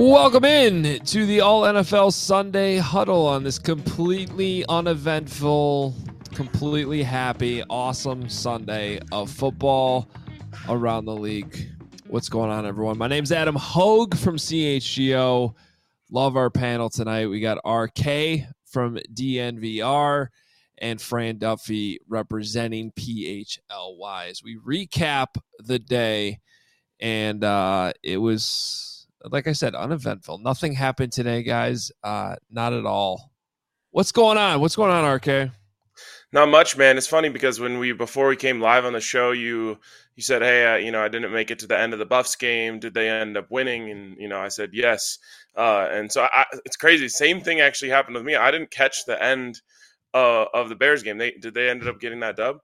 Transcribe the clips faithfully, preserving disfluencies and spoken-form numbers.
Welcome in to the All N F L Sunday Huddle on this completely uneventful, completely happy, awesome Sunday of football around the league. What's going on, everyone? My name's Adam Hogue from C H G O. Love our panel tonight. We got R K from D N V R and Fran Duffy representing P H L Y as we recap the day. And uh, it was, like I said, uneventful. Nothing happened today, guys. Uh, not at all. What's going on? What's going on, R K? Not much, man. It's funny because when we before we came live on the show, you you said, "Hey, uh, you know, I didn't make it to the end of the Buffs game. Did they end up winning?" And you know, I said yes. Uh, and so I, it's crazy. Same thing actually happened with me. I didn't catch the end uh, of the Bears game. They did they ended up getting that dub?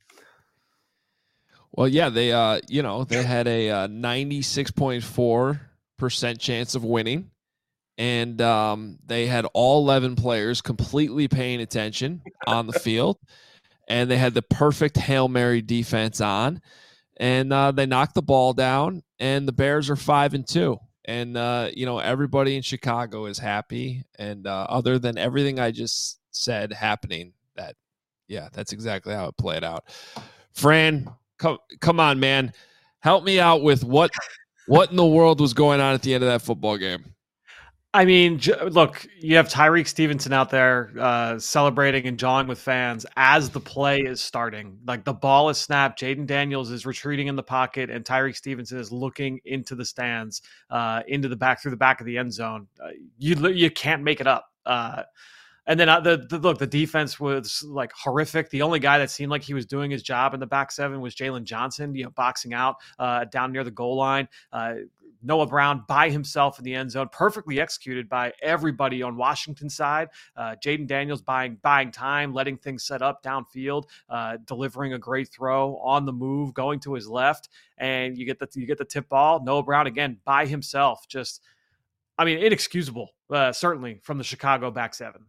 Well, yeah, they uh, you know, they had a uh, ninety-six point four percent chance of winning. And um, they had all eleven players completely paying attention on the field. And they had the perfect Hail Mary defense on. And uh, they knocked the ball down. And the Bears are five and two. And, uh, you know, everybody in Chicago is happy. And uh, other than everything I just said happening, that, yeah, that's exactly how it played out. Fran, come, come on, man. Help me out with what, what in the world was going on at the end of that football game. I mean, look, you have Tyreek Stevenson out there uh, celebrating and jawing with fans as the play is starting. Like the ball is snapped, Jaden Daniels is retreating in the pocket, and Tyreek Stevenson is looking into the stands, uh, into the back through the back of the end zone. Uh, you you can't make it up. Uh, And then uh, the, the look, the defense was like horrific. The only guy that seemed like he was doing his job in the back seven was Jalen Johnson, you know, boxing out uh, down near the goal line. Uh, Noah Brown by himself in the end zone, perfectly executed by everybody on Washington's side. Uh, Jaden Daniels buying buying time, letting things set up downfield, uh, delivering a great throw on the move, going to his left, and you get the you get the tip ball. Noah Brown again by himself, just I mean inexcusable, uh, certainly from the Chicago back seven.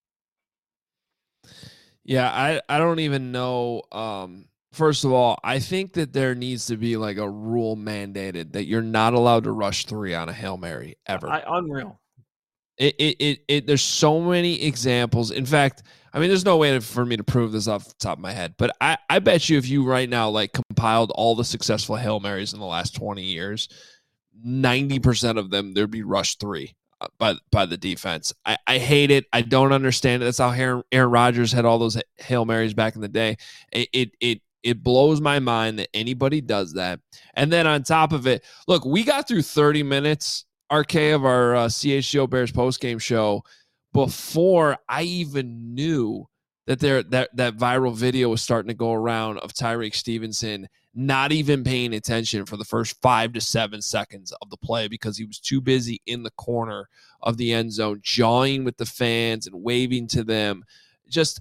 Yeah, I, I don't even know. Um, first of all, I think that there needs to be like a rule mandated that you're not allowed to rush three on a Hail Mary ever. I, unreal. It, it, it, it, there's so many examples. In fact, I mean, there's no way to, for me to prove this off the top of my head, but I, I bet you if you right now like compiled all the successful Hail Marys in the last twenty years, ninety percent of them, there'd be rush three. By by the defense. I, I hate it. I don't understand it. That's how Aaron, Aaron Rodgers had all those Hail Marys back in the day. It, it it it blows my mind that anybody does that. And then on top of it, look, we got through thirty minutes, R K, of our uh, C H G O Bears postgame show before I even knew that there that that viral video was starting to go around of Tyreek Stevenson not even paying attention for the first five to seven seconds of the play because he was too busy in the corner of the end zone, jawing with the fans and waving to them. Just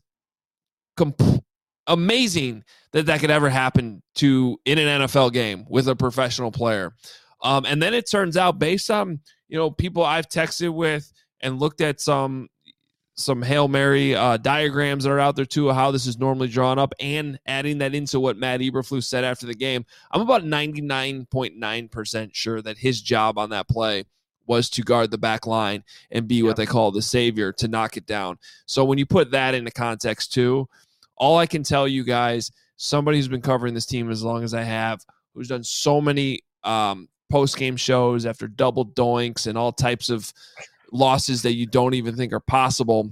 comp- amazing that that could ever happen to in an N F L game with a professional player. Um, and then it turns out, based on, you know, people I've texted with and looked at some some Hail Mary uh, diagrams that are out there too, of how this is normally drawn up, and adding that into what Matt Eberflus said after the game, I'm about ninety-nine point nine percent sure that his job on that play was to guard the back line and be what yep. they call the savior, to knock it down. So when you put that into context too, all I can tell you guys, somebody who's been covering this team as long as I have, who's done so many um, post-game shows after double doinks and all types of losses that you don't even think are possible.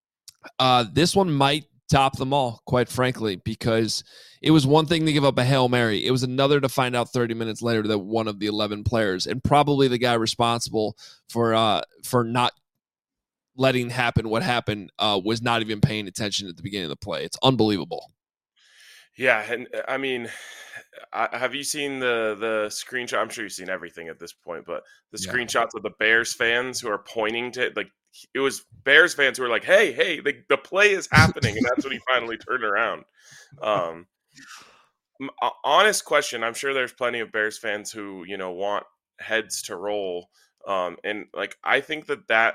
Uh, this one might top them all, quite frankly, because it was one thing to give up a Hail Mary. It was another to find out thirty minutes later that one of the eleven players, and probably the guy responsible for uh, for not letting happen what happened, uh, was not even paying attention at the beginning of the play. It's unbelievable. Yeah, and I mean, I, have you seen the the screenshot? I'm sure you've seen everything at this point, but the yeah. screenshots of the Bears fans who are pointing to, like, it was Bears fans who were like, "Hey, hey, the, the play is happening," and that's when he finally turned around. Um, honest question: I'm sure there's plenty of Bears fans who, you know, want heads to roll, um, and like I think that that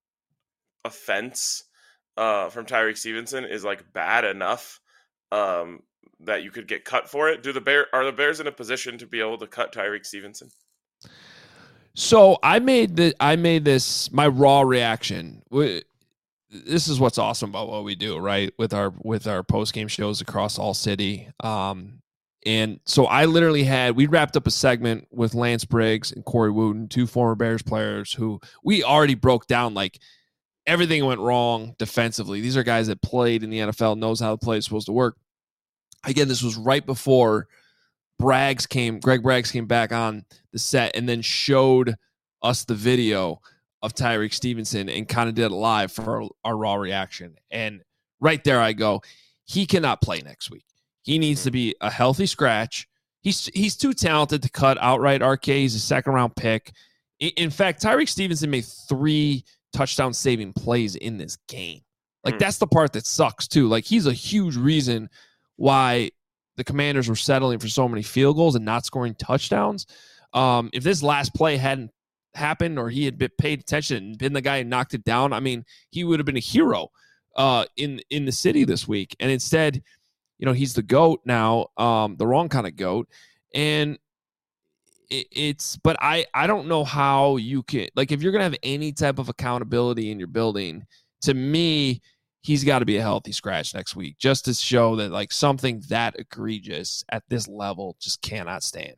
offense uh, from Tyreek Stevenson is like bad enough. Um, that you could get cut for it. Do the Bear are the Bears in a position to be able to cut Tyreek Stevenson? So I made the I made this my raw reaction. This is what's awesome about what we do, right? With our with our post game shows across all city. Um, and so I literally had we wrapped up a segment with Lance Briggs and Corey Wooten, two former Bears players who we already broke down like everything went wrong defensively. These are guys that played in the N F L, knows how the play is supposed to work. Again, this was right before Braggs came, Greg Braggs came back on the set and then showed us the video of Tyreek Stevenson and kind of did it live for our, our raw reaction. And right there I go, he cannot play next week. He needs to be a healthy scratch. He's he's too talented to cut outright R K. He's a second round pick. In fact, Tyreek Stevenson made three touchdown saving plays in this game. Like, that's the part that sucks too. Like, he's a huge reason why the Commanders were settling for so many field goals and not scoring touchdowns. Um, if this last play hadn't happened or he had been paid attention and been the guy who knocked it down, I mean, he would have been a hero uh, in in the city this week. And instead, you know, he's the GOAT now, um, the wrong kind of GOAT. And it, it's, but I, I don't know how you can, like, if you're going to have any type of accountability in your building, to me, he's got to be a healthy scratch next week just to show that, like, something that egregious at this level just cannot stand.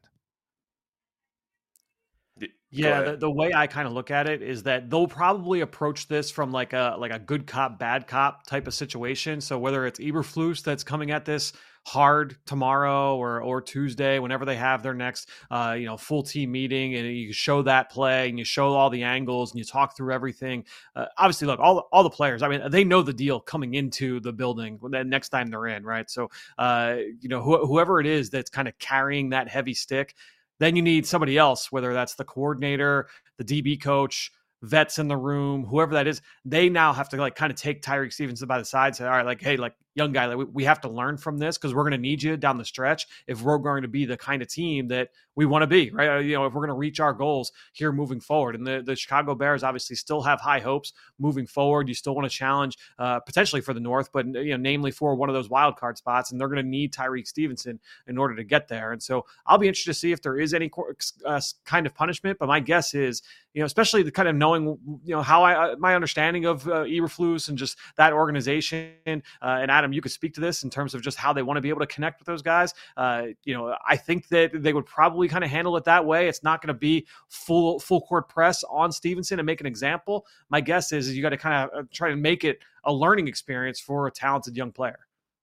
Yeah, the, the way I kind of look at it is that they'll probably approach this from like a like a good cop, bad cop type of situation. So whether it's Eberflus that's coming at this hard tomorrow or or Tuesday, whenever they have their next uh, you know full team meeting, and you show that play and you show all the angles and you talk through everything. Uh, obviously, look, all all the players, I mean, they know the deal coming into the building the next time they're in, right? So uh, you know wh- whoever it is that's kind of carrying that heavy stick. Then you need somebody else, whether that's the coordinator, the D B coach, vets in the room, whoever that is. They now have to like kind of take Tyreek Stevenson by the side, say, all right, like, hey, like young guy, like, we, we have to learn from this because we're going to need you down the stretch if we're going to be the kind of team that we want to be, right? You know, if we're going to reach our goals here moving forward. And the, the Chicago Bears obviously still have high hopes moving forward. You still want to challenge uh, potentially for the North, but, you know, namely for one of those wild card spots. And they're going to need Tyreek Stevenson in order to get there. And so I'll be interested to see if there is any uh, kind of punishment. But my guess is, you know, especially the kind of knowing, you know, how I, my understanding of uh, Eberflus and just that organization. Uh, and Adam, you could speak to this in terms of just how they want to be able to connect with those guys. Uh, you know, I think that they would probably kind of handle it that way. It's not going to be full full court press on Stevenson and make an example. My guess is, is you got to kind of try to make it a learning experience for a talented young player.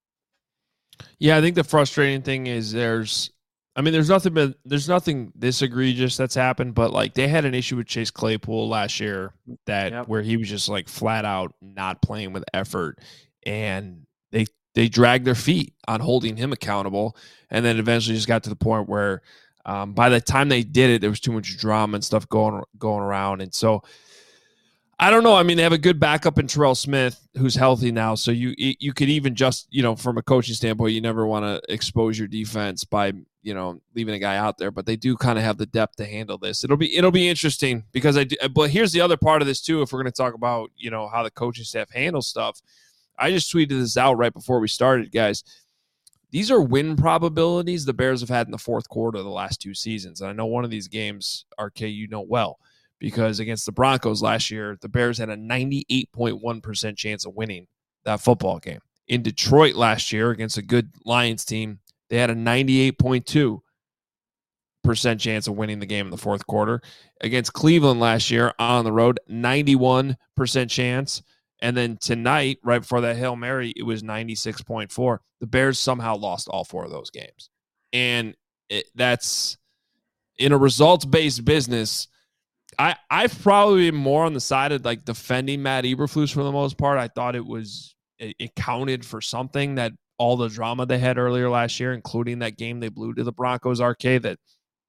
Yeah, I think the frustrating thing is there's, I mean, there's nothing but there's nothing this egregious that's happened, but like they had an issue with Chase Claypool last year that yep. where he was just like flat out not playing with effort, and they they dragged their feet on holding him accountable, and then eventually just got to the point where um, by the time they did it, there was too much drama and stuff going going around, and so I don't know. I mean, they have a good backup in Terrell Smith, who's healthy now, so you you could even just, you know, from a coaching standpoint, you never want to expose your defense by, you know, leaving a guy out there, but they do kind of have the depth to handle this. It'll be it'll be interesting because I do, but here's the other part of this too. If we're going to talk about, you know, how the coaching staff handles stuff, I just tweeted this out right before we started, guys. These are win probabilities the Bears have had in the fourth quarter of the last two seasons. And I know one of these games, R K, you know well, because against the Broncos last year, the Bears had a ninety-eight point one percent chance of winning that football game. In Detroit last year against a good Lions team, they had a ninety-eight point two percent chance of winning the game in the fourth quarter. Against Cleveland last year on the road, ninety-one percent chance. And then tonight, right before that Hail Mary, it was ninety-six point four. The Bears somehow lost all four of those games. And it, that's in a results-based business. I, I've probably been more on the side of like defending Matt Eberflus for the most part. I thought it was, it, it counted for something that all the drama they had earlier last year, including that game they blew to the Broncos arcade, that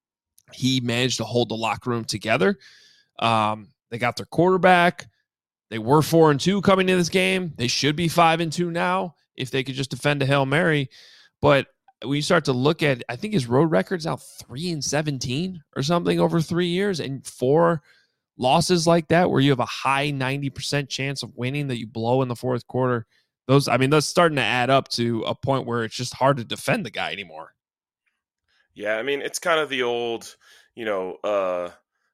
he managed to hold the locker room together. Um, they got their quarterback. They were four and two coming into this game. They should be five and two now if they could just defend a Hail Mary. But when you start to look at, I think his road record's now three and seventeen or something over three years, and four losses like that where you have a high ninety percent chance of winning that you blow in the fourth quarter. Those, I mean, that's starting to add up to a point where it's just hard to defend the guy anymore. Yeah, I mean, it's kind of the old, you know, uh,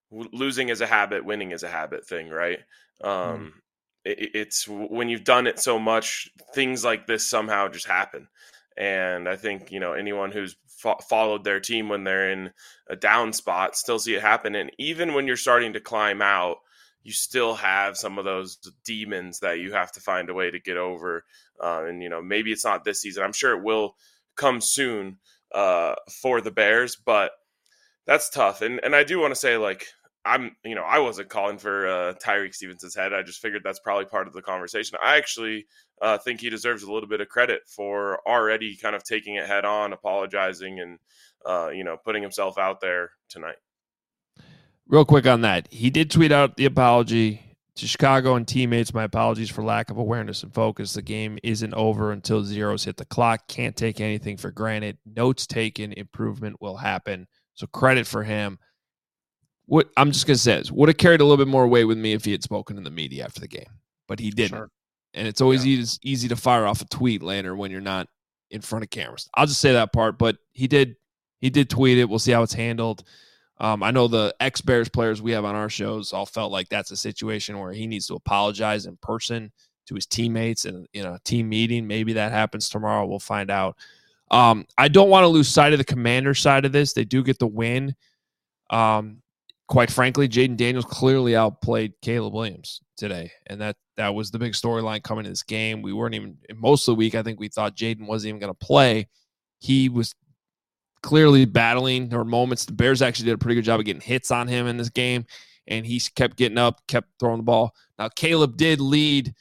losing is a habit, winning is a habit thing, right? Um, Mm. it, it's when you've done it so much, things like this somehow just happen. And I think, you know, anyone who's fo- followed their team when they're in a down spot still see it happen. And even when you're starting to climb out, you still have some of those demons that you have to find a way to get over. Uh, and, you know, maybe it's not this season. I'm sure it will come soon uh, for the Bears, but that's tough. And and I do want to say, like, I'm, you know, I wasn't calling for uh, Tyreek Stevenson's head. I just figured that's probably part of the conversation. I actually uh, think he deserves a little bit of credit for already kind of taking it head on, apologizing, and, uh, you know, putting himself out there tonight. Real quick on that, he did tweet out the apology to Chicago and teammates. My apologies for lack of awareness and focus. The game isn't over until zeros hit the clock. Can't take anything for granted. Notes taken. Improvement will happen. So credit for him. What I'm just gonna say is, would have carried a little bit more weight with me if he had spoken in the media after the game, but he didn't. Sure. And it's always yeah. easy, easy to fire off a tweet later when you're not in front of cameras. I'll just say that part. But he did, he did tweet it. We'll see how it's handled. Um, I know the ex-Bears players we have on our shows all felt like that's a situation where he needs to apologize in person to his teammates and in a team meeting. Maybe that happens tomorrow. We'll find out. Um, I don't want to lose sight of the Commander side of this. They do get the win. Um, quite frankly, Jaden Daniels clearly outplayed Caleb Williams today, and that that was the big storyline coming to this game. We weren't even – most of the week, I think we thought Jaden wasn't even going to play. He was – clearly battling. There were moments the Bears actually did a pretty good job of getting hits on him in this game, and he kept getting up, kept throwing the ball. Now, Caleb did lead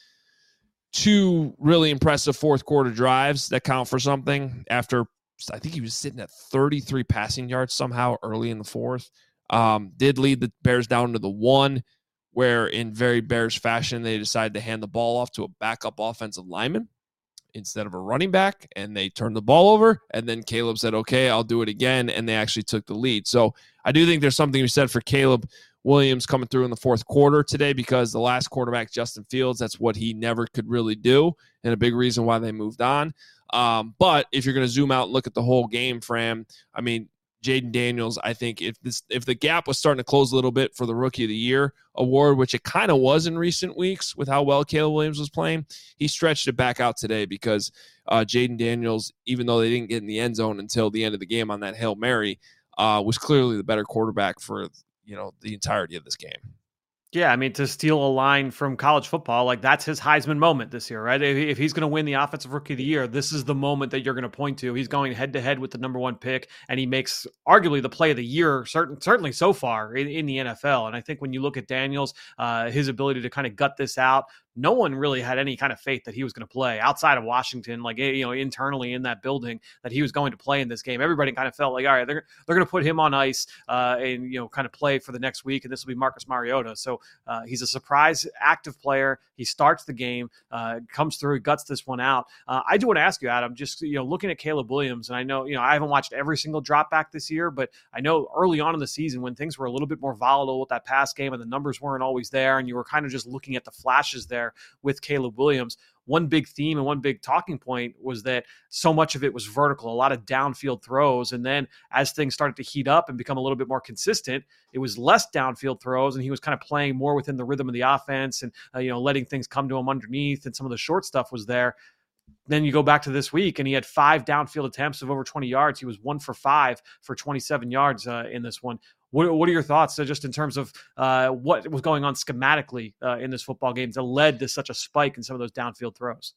two really impressive fourth quarter drives that count for something after I think he was sitting at thirty-three passing yards somehow early in the fourth. Um, did lead the Bears down to the one where in very Bears fashion they decided to hand the ball off to a backup offensive lineman instead of a running back, and they turned the ball over, and then Caleb said, okay, I'll do it again, and they actually took the lead. So I do think there's something to be said for Caleb Williams coming through in the fourth quarter today, because the last quarterback, Justin Fields, that's what he never could really do, and a big reason why they moved on. Um, but if you're going to zoom out and look at the whole game, Fram, I mean, Jaden Daniels, I think if this if the gap was starting to close a little bit for the Rookie of the Year award, which it kind of was in recent weeks with how well Caleb Williams was playing, he stretched it back out today because uh, Jaden Daniels, even though they didn't get in the end zone until the end of the game on that Hail Mary, uh, was clearly the better quarterback for, you know, the entirety of this game. Yeah, I mean, to steal a line from college football, like that's his Heisman moment this year, right? If, if he's going to win the Offensive Rookie of the Year, this is the moment that you're going to point to. He's going head to head with the number one pick, and he makes arguably the play of the year, certain, certainly so far in, in the N F L. And I think when you look at Daniels, uh, his ability to kind of gut this out, no one really had any kind of faith that he was going to play outside of Washington, like, you know, internally in that building, that he was going to play in this game. Everybody kind of felt like, all right, they're, they're going to put him on ice uh, and, you know, kind of play for the next week. And this will be Marcus Mariota. So uh, he's a surprise active player. He starts the game, uh, comes through, guts this one out. Uh, I do want to ask you, Adam, just, you know, looking at Caleb Williams, and I know, you know, I haven't watched every single drop back this year, but I know early on in the season when things were a little bit more volatile with that pass game and the numbers weren't always there, and you were kind of just looking at the flashes there with Caleb Williams, one big theme and one big talking point was that so much of it was vertical, a lot of downfield throws. And then as things started to heat up and become a little bit more consistent, it was less downfield throws, and he was kind of playing more within the rhythm of the offense and, uh, you know, letting things come to him underneath, and some of the short stuff was there. Then you go back to this week, and he had five downfield attempts of over twenty yards. He was one for five for twenty-seven yards uh, in this one. What, what are your thoughts uh, just in terms of uh, what was going on schematically uh, in this football game that led to such a spike in some of those downfield throws?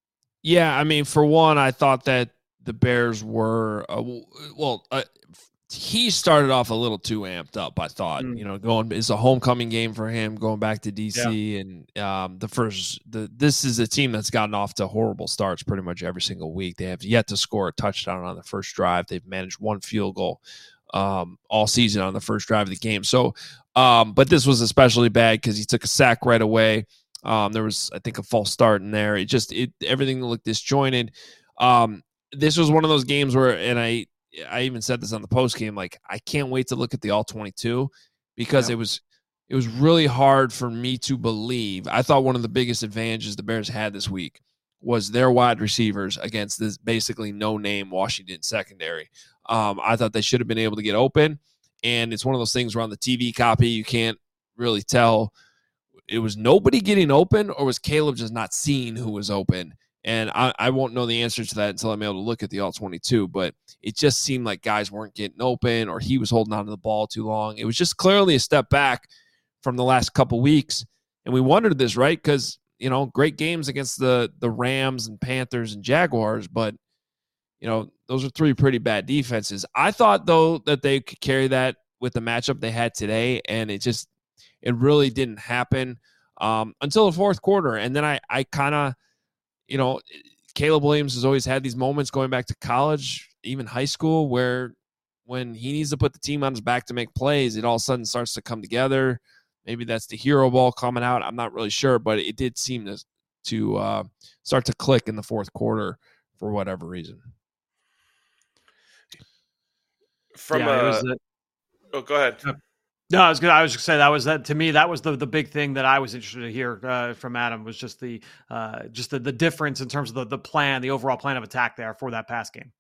Yeah, I mean, for one, I thought that the Bears were, uh, well, uh, he started off a little too amped up, I thought. Mm. You know, going it's a homecoming game for him, going back to D C, yeah. and um, the first, the this is a team that's gotten off to horrible starts pretty much every single week. They have yet to score a touchdown on the first drive. They've managed one field goal um, all season on the first drive of the game. So, um, but this was especially bad because he took a sack right away. Um, there was, I think, a false start in there. It just, it everything looked disjointed. Um, this was one of those games where, and I, I even said this on the post game, like, I can't wait to look at the all twenty-two because yeah. it was, it was really hard for me to believe. I thought one of the biggest advantages the Bears had this week was their wide receivers against this basically no name Washington secondary. Um, I thought they should have been able to get open. and it's one of those things where on the T V copy you can't really tell. It was nobody getting open, or was Caleb just not seeing who was open? And I, I won't know the answer to that until I'm able to look at the all twenty-two, but it just seemed like guys weren't getting open, or he was holding on to the ball too long. It was just clearly a step back from the last couple weeks. And we wondered this, right? Because, you know, great games against the the Rams and Panthers and Jaguars, but, you know, those are three pretty bad defenses. I thought, though, that they could carry that with the matchup they had today, and it just – it really didn't happen um, until the fourth quarter. And then I, I kind of, you know, Caleb Williams has always had these moments going back to college, even high school, where when he needs to put the team on his back to make plays, it all of a sudden starts to come together. Maybe that's the hero ball coming out. I'm not really sure, but it did seem to, to uh, start to click in the fourth quarter for whatever reason. From yeah, uh, oh, go ahead. Uh, No, I was good. I was just saying that was that to me. That was the the big thing that I was interested to hear uh, from Adam was just the uh, just the, the difference in terms of the the plan, the overall plan of attack there for that pass game.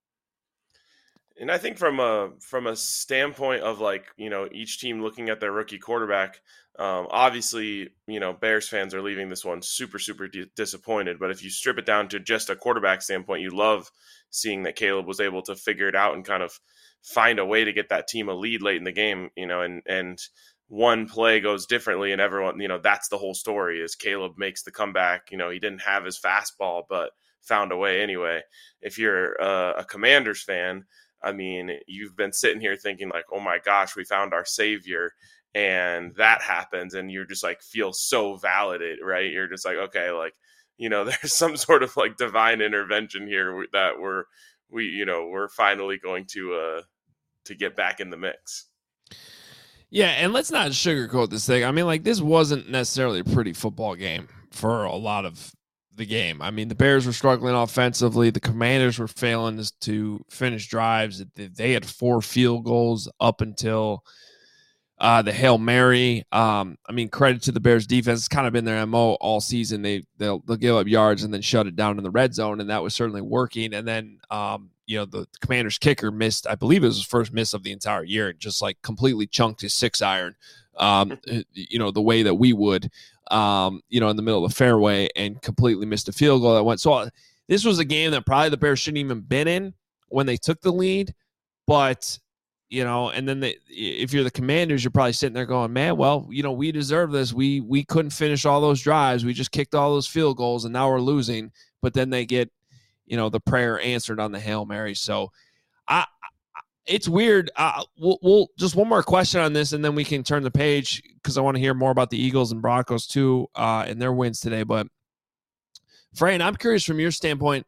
And I think from a from a standpoint of like, you know, each team looking at their rookie quarterback, um, obviously, you know, Bears fans are leaving this one super super di- disappointed. But if you strip it down to just a quarterback standpoint, you love seeing that Caleb was able to figure it out and kind of find a way to get that team a lead late in the game, you know, and, and one play goes differently and everyone, you know, that's the whole story is Caleb makes the comeback. You know, he didn't have his fastball, but found a way anyway. If you're a, a Commanders fan, I mean, you've been sitting here thinking like, oh my gosh, we found our savior, and that happens. And you're just like, feel so validated, right? You're just like, okay, like, you know, there's some sort of like divine intervention here that we're, we, you know, we're finally going to, uh, to get back in the mix. Yeah, and let's not sugarcoat this thing. I mean, like, this wasn't necessarily a pretty football game for a lot of the game. I mean, the Bears were struggling offensively. The Commanders were failing to finish drives. They had four field goals up until uh, the Hail Mary. Um, I mean, credit to the Bears defense. It's kind of been their M O all season. They, they'll, they'll give up yards and then shut it down in the red zone, and that was certainly working. And then, um, you know, the Commanders kicker missed, I believe it was his first miss of the entire year, and just like completely chunked his six iron, um, you know, the way that we would, um, you know, in the middle of the fairway, and completely missed a field goal that went. So uh, this was a game that probably the Bears shouldn't even been in when they took the lead. But, you know, and then they, if you're the Commanders, you're probably sitting there going, man, well, you know, we deserve this. We, we couldn't finish all those drives. We just kicked all those field goals and now we're losing. But then they get, you know, the prayer answered on the Hail Mary. So I, I it's weird. Uh, we'll, we'll just one more question on this, and then we can turn the page, because I want to hear more about the Eagles and Broncos too, uh, and their wins today. But Fran, I'm curious from your standpoint.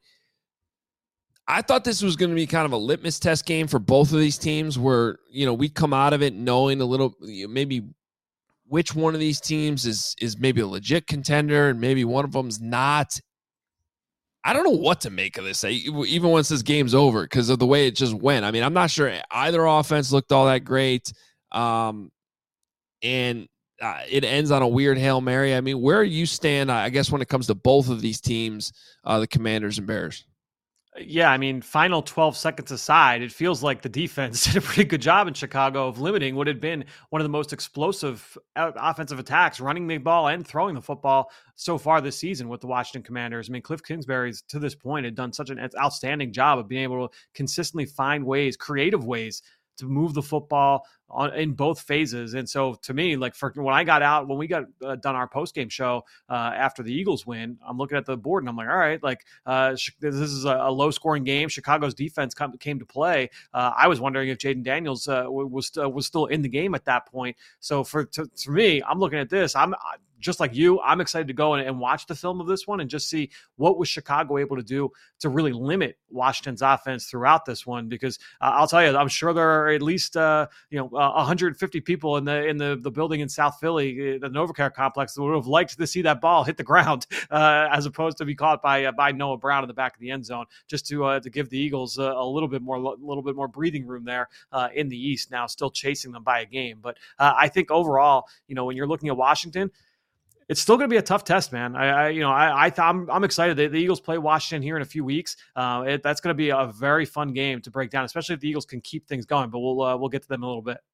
I thought this was going to be kind of a litmus test game for both of these teams, where, you know, we'd come out of it knowing a little, maybe which one of these teams is, is maybe a legit contender and maybe one of them's not. I don't know what to make of this, even once this game's over, because of the way it just went. I mean, I'm not sure either offense looked all that great. Um, and uh, it ends on a weird Hail Mary. I mean, where you stand, I guess, when it comes to both of these teams, uh, the Commanders and Bears? Yeah, I mean, final twelve seconds aside, it feels like the defense did a pretty good job in Chicago of limiting what had been one of the most explosive offensive attacks, running the ball and throwing the football so far this season with the Washington Commanders. I mean, Cliff Kingsbury's, to this point, had done such an outstanding job of being able to consistently find ways, creative ways, to move the football on, in both phases. And so to me, like for when I got out, when we got uh, done our post-game show uh, after the Eagles win, I'm looking at the board and I'm like, all right, like uh, this is a, a low scoring game. Chicago's defense come, came to play. Uh, I was wondering if Jaden Daniels uh, was, uh, was still in the game at that point. So for, to, for me, I'm looking at this, I'm just like you, I'm excited to go and, and watch the film of this one and just see what was Chicago able to do to really limit Washington's offense throughout this one. Because uh, I'll tell you, I'm sure there are at least uh, you know uh, one hundred fifty people in the in the, the building in South Philly, the NovaCare complex, that would have liked to see that ball hit the ground uh, as opposed to be caught by uh, by Noah Brown in the back of the end zone, just to uh, to give the Eagles a, a little bit more a little bit more breathing room there uh, in the East. Now, still chasing them by a game, but uh, I think overall, you know, when you're looking at Washington, it's still going to be a tough test, man. I, I you know, I, I th- I'm, I'm excited. The, the Eagles play Washington here in a few weeks. Uh, it, that's going to be a very fun game to break down, especially if the Eagles can keep things going. But we'll uh, we'll get to them in a little bit.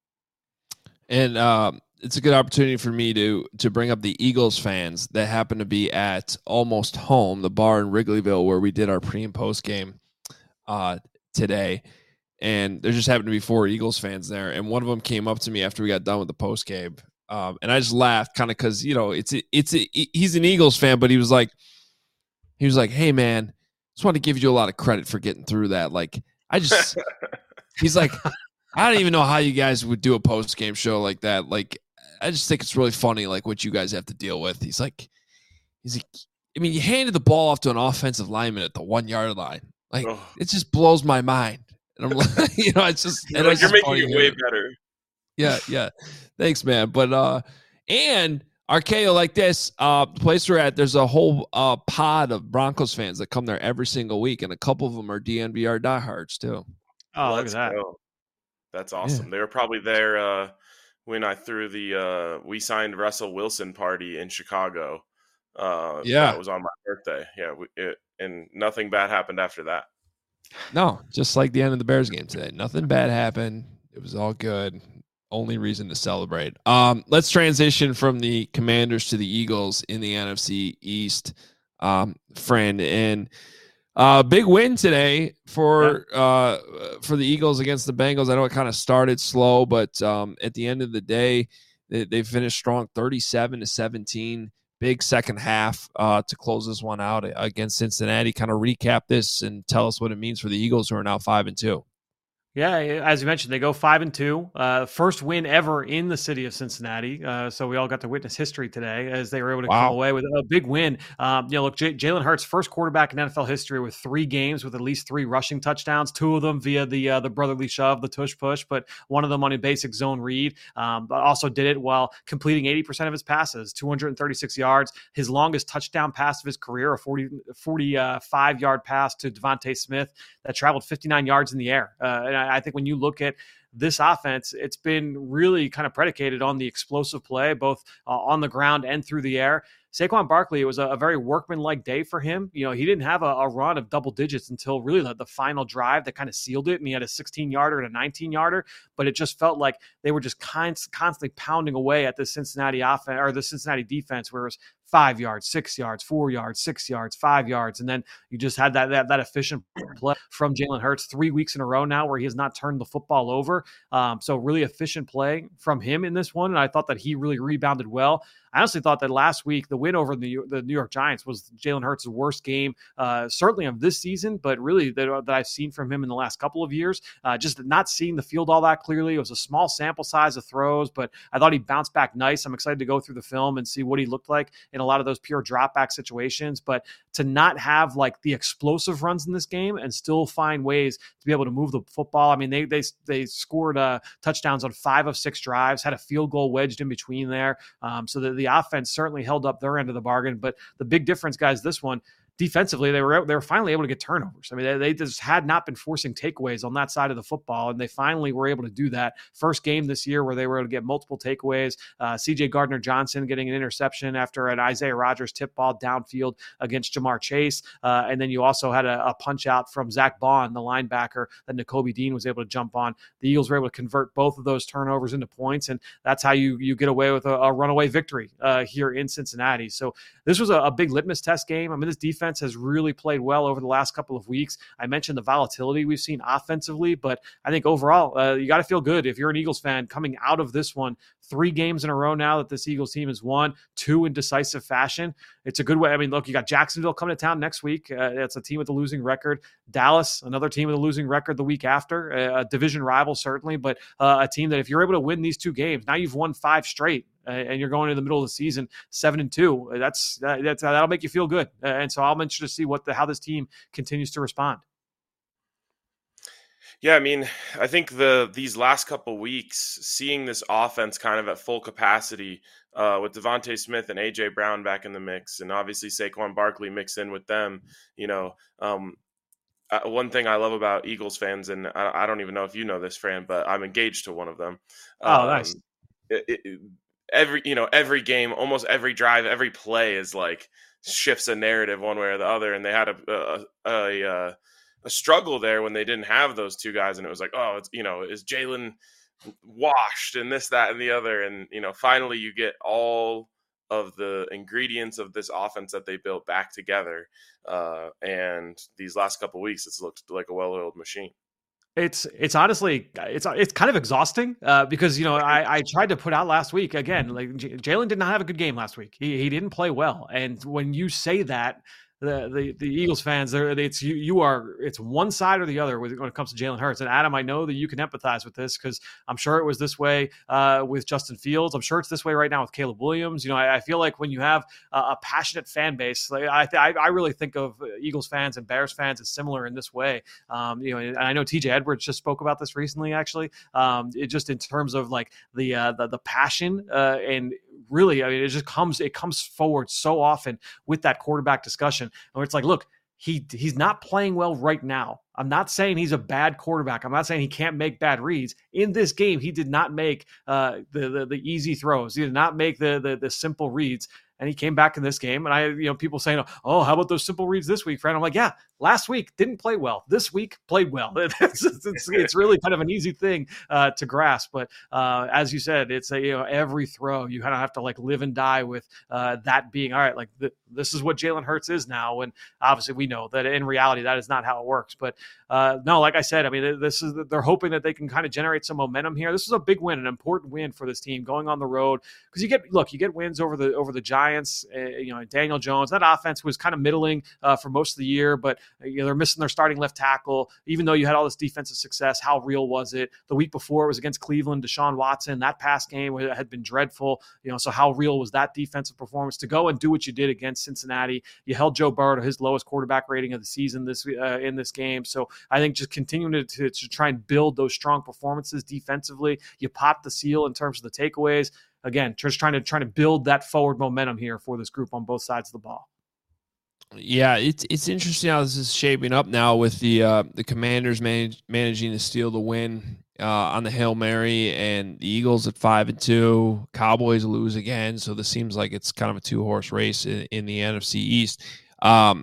And um, it's a good opportunity for me to to bring up the Eagles fans that happen to be at Almost Home, the bar in Wrigleyville where we did our pre and post game uh, today. And there just happened to be four Eagles fans there, and one of them came up to me after we got done with the post game. Um, and I just laughed kind of because, you know, it's, it's, a, he's an Eagles fan, but he was like, he was like, hey man, just want to give you a lot of credit for getting through that. Like, I just, he's like, I don't even know how you guys would do a post game show like that. Like, I just think it's really funny, like what you guys have to deal with. He's like, he's like, I mean, you handed the ball off to an offensive lineman at the one yard line. Like, oh. It just blows my mind. And I'm like, you know, it's just, you're, like, you're making it way better. Yeah, yeah. Thanks, man. But uh and Archaeo, like this, uh the place we're at, there's a whole uh pod of Broncos fans that come there every single week, and a couple of them are D N V R diehards too. Oh, look at that. Go. That's awesome. Yeah. They were probably there uh when I threw the uh we signed Russell Wilson party in Chicago. Uh yeah, that was on my birthday. Yeah, we, it, and nothing bad happened after that. No, just like the end of the Bears game today. Nothing bad happened. It was all good. Only reason to celebrate. Um, let's transition from the Commanders to the Eagles in the N F C East, um, friend. And uh, big win today for yeah. uh, for the Eagles against the Bengals. I know it kind of started slow, but um, at the end of the day, they, they finished strong, thirty-seven to seventeen. Big second half uh, to close this one out against Cincinnati. Kind of recap this and tell us what it means for the Eagles, who are now five and two. Yeah, as you mentioned, they go five and two. Uh, first win ever in the city of Cincinnati. Uh, so we all got to witness history today as they were able to wow. come away with a big win. Um, you know, look, J- Jalen Hurts, first quarterback in N F L history with three games with at least three rushing touchdowns. Two of them via the uh, the brotherly shove, the tush push, but one of them on a basic zone read. Um, but also did it while completing eighty percent of his passes, two hundred thirty-six yards. His longest touchdown pass of his career, a forty, forty-five yard pass to Devontae Smith that traveled fifty-nine yards in the air. Uh, and I think when you look at this offense, it's been really kind of predicated on the explosive play, both uh, on the ground and through the air. Saquon Barkley, it was a, a very workmanlike day for him. You know, he didn't have a, a run of double digits until really the, the final drive that kind of sealed it. And he had a sixteen yarder and a nineteen yarder, but it just felt like they were just kind, constantly pounding away at the Cincinnati offense or the Cincinnati defense, where it was five yards, six yards, four yards, six yards, five yards. And then you just had that, that, that efficient play from Jalen Hurts three weeks in a row now where he has not turned the football over. Um, so really efficient play from him in this one. And I thought that he really rebounded well. I honestly thought that last week, the win over the, the New York Giants was Jalen Hurts' worst game, uh, certainly of this season, but really that, that I've seen from him in the last couple of years. Uh, just not seeing the field all that clearly. It was a small sample size of throws, but I thought he bounced back nice. I'm excited to go through the film and see what he looked like in a lot of those pure drop back situations. But to not have like the explosive runs in this game and still find ways to be able to move the football. I mean, they they they scored uh, touchdowns on five of six drives, had a field goal wedged in between there. Um, so that the offense certainly held up their end of the bargain. But the big difference, guys, this one, defensively, they were they were finally able to get turnovers. I mean, they, they just had not been forcing takeaways on that side of the football, and they finally were able to do that. First game this year where they were able to get multiple takeaways. Uh, C J Gardner-Johnson getting an interception after an Isaiah Rodgers tip ball downfield against Jamar Chase. Uh, and then you also had a, a punch out from Zach Bond, the linebacker, that Nakobe Dean was able to jump on. The Eagles were able to convert both of those turnovers into points, and that's how you you get away with a, a runaway victory uh, here in Cincinnati. So this was a, a big litmus test game. I mean, this defense has really played well over the last couple of weeks. I mentioned the volatility we've seen offensively, but I think overall, uh, you got to feel good if you're an Eagles fan coming out of this one. Three games in a row now that this Eagles team has won, two in decisive fashion. It's a good way. I mean, look, you got Jacksonville coming to town next week. Uh, it's a team with a losing record. Dallas, another team with a losing record the week after. A, a division rival, certainly, but uh, a team that if you're able to win these two games, now you've won five straight. Uh, and you're going into the middle of the season seven and two. That's uh, that's uh, that'll make you feel good. Uh, and so I'm interested to see what the how this team continues to respond. Yeah, I mean, I think the these last couple weeks, seeing this offense kind of at full capacity uh, with Devontae Smith and A J Brown back in the mix, and obviously Saquon Barkley mixed in with them. You know, um, uh, one thing I love about Eagles fans, and I, I don't even know if you know this, Fran, but I'm engaged to one of them. Oh, um, nice. It, it, every you know every game, almost every drive, every play is like shifts a narrative one way or the other, and they had a a, a, a, a struggle there when they didn't have those two guys, and it was like, oh, it's you know, is Jalen washed and this, that, and the other, and you know, finally you get all of the ingredients of this offense that they built back together, uh, and these last couple of weeks, it's looked like a well-oiled machine. It's it's honestly it's it's kind of exhausting uh, because you know I, I tried to put out last week again, like J- Jalen did not have a good game last week. He he didn't play well, and when you say that, the the, the Eagles fans, there it's you you are it's one side or the other when it comes to Jalen Hurts. And Adam, I know that you can empathize with this because I'm sure it was this way uh, with Justin Fields. I'm sure it's this way right now with Caleb Williams. You know, I, I feel like when you have a, a passionate fan base, like I, th- I really think of Eagles fans and Bears fans as similar in this way. Um, you know, and I know T J Edwards just spoke about this recently. Actually, um, it just in terms of like the uh, the, the passion uh, and. Really, I mean, it just comes, it comes forward so often with that quarterback discussion where it's like, look, he he's not playing well right now. I'm not saying he's a bad quarterback. I'm not saying he can't make bad reads. In this game, he did not make uh, the, the the easy throws. He did not make the the, the simple reads. And he came back in this game. And I, you know, people saying, oh, how about those simple reads this week, friend? I'm like, yeah, last week didn't play well. This week played well. It's, it's, it's really kind of an easy thing uh, to grasp. But uh, as you said, it's a, you know, every throw, you kind of have to like live and die with uh, that being, all right, like th- this is what Jalen Hurts is now. And obviously we know that in reality, that is not how it works. But uh, no, like I said, I mean, this is, they're hoping that they can kind of generate some momentum here. This is a big win, an important win for this team going on the road. Because you get, look, you get wins over the over the Giants, uh, you know, Daniel Jones. That offense was kind of middling uh, for most of the year, but uh, you know, they're missing their starting left tackle. Even though you had all this defensive success, how real was it? The week before it was against Cleveland, Deshaun Watson. That pass game had been dreadful. You know, so how real was that defensive performance? To go and do what you did against Cincinnati, you held Joe Burrow to his lowest quarterback rating of the season this uh, in this game. So I think just continuing to, to, to try and build those strong performances defensively, you pop the seal in terms of the takeaways. Again, just trying to trying to build that forward momentum here for this group on both sides of the ball. Yeah, it's it's interesting how this is shaping up now with the uh, the Commanders manage, managing to steal the win uh, on the Hail Mary, and the Eagles at five and two. Cowboys lose again, so this seems like it's kind of a two horse race in, in the N F C East. Um,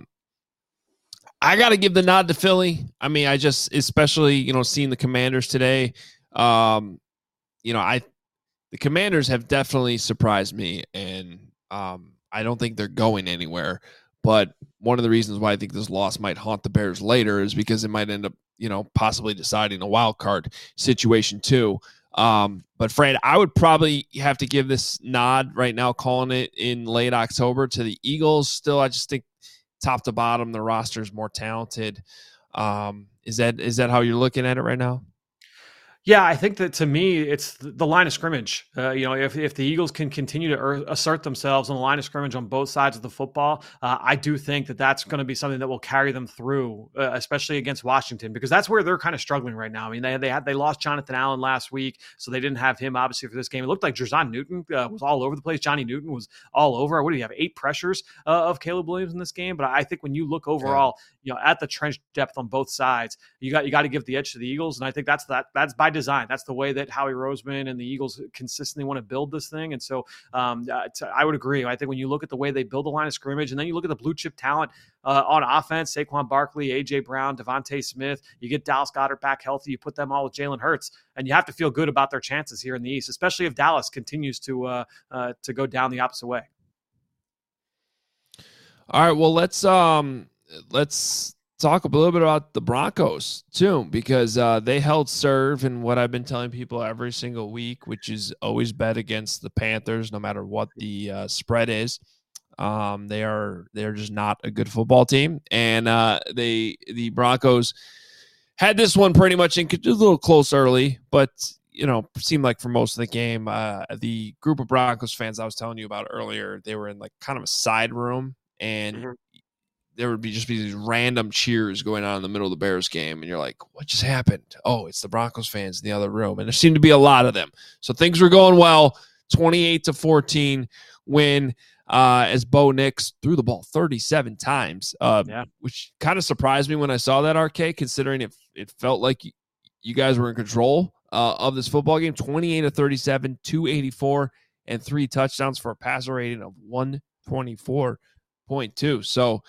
I got to give the nod to Philly. I mean, I just especially you know seeing the Commanders today. Um, you know, I. The Commanders have definitely surprised me, and um, I don't think they're going anywhere. But one of the reasons why I think this loss might haunt the Bears later is because it might end up, you know, possibly deciding a wild card situation too. Um, but Fred, I would probably have to give this nod right now, calling it in late October, to the Eagles. Still, I just think top to bottom, the roster is more talented. Um, is that is that how you're looking at it right now? Yeah, I think that to me, it's the line of scrimmage. Uh, you know, if, if the Eagles can continue to er- assert themselves on the line of scrimmage on both sides of the football, uh, I do think that that's going to be something that will carry them through, uh, especially against Washington, because that's where they're kind of struggling right now. I mean, they they had they lost Jonathan Allen last week, so they didn't have him obviously for this game. It looked like Jer'Zhan Newton uh, was all over the place. Johnny Newton was all over. What do you have? Eight pressures uh, of Caleb Williams in this game. But I think when you look overall, yeah. you know, at the trench depth on both sides, you got you got to give the edge to the Eagles, and I think that's that that's by design. That's the way that Howie Roseman and the Eagles consistently want to build this thing. And so um, I would agree. I think when you look at the way they build the line of scrimmage, and then you look at the blue chip talent uh, on offense, Saquon Barkley, A J Brown, Devontae Smith, you get Dallas Goedert back healthy, you put them all with Jalen Hurts, and you have to feel good about their chances here in the East, especially if Dallas continues to uh, uh, to go down the opposite way. All right, well, let's um, let's talk a little bit about the Broncos too, because uh, they held serve in what I've been telling people every single week, which is always bet against the Panthers, no matter what the uh, spread is. Um, they are they're just not a good football team, and uh, they the Broncos had this one pretty much in a little close early, but you know seemed like for most of the game, uh, the group of Broncos fans I was telling you about earlier, they were in like kind of a side room, and mm-hmm. there would be just be these random cheers going on in the middle of the Bears game. And you're like, what just happened? Oh, it's the Broncos fans in the other room. And there seemed to be a lot of them. So things were going well. twenty-eight to fourteen win uh, as Bo Nix threw the ball thirty-seven times, uh, yeah. which kind of surprised me when I saw that, R K, considering it, it felt like you, you guys were in control uh, of this football game. twenty-eight to thirty-seven, two eighty-four and three touchdowns for a passer rating of one twenty-four point two. So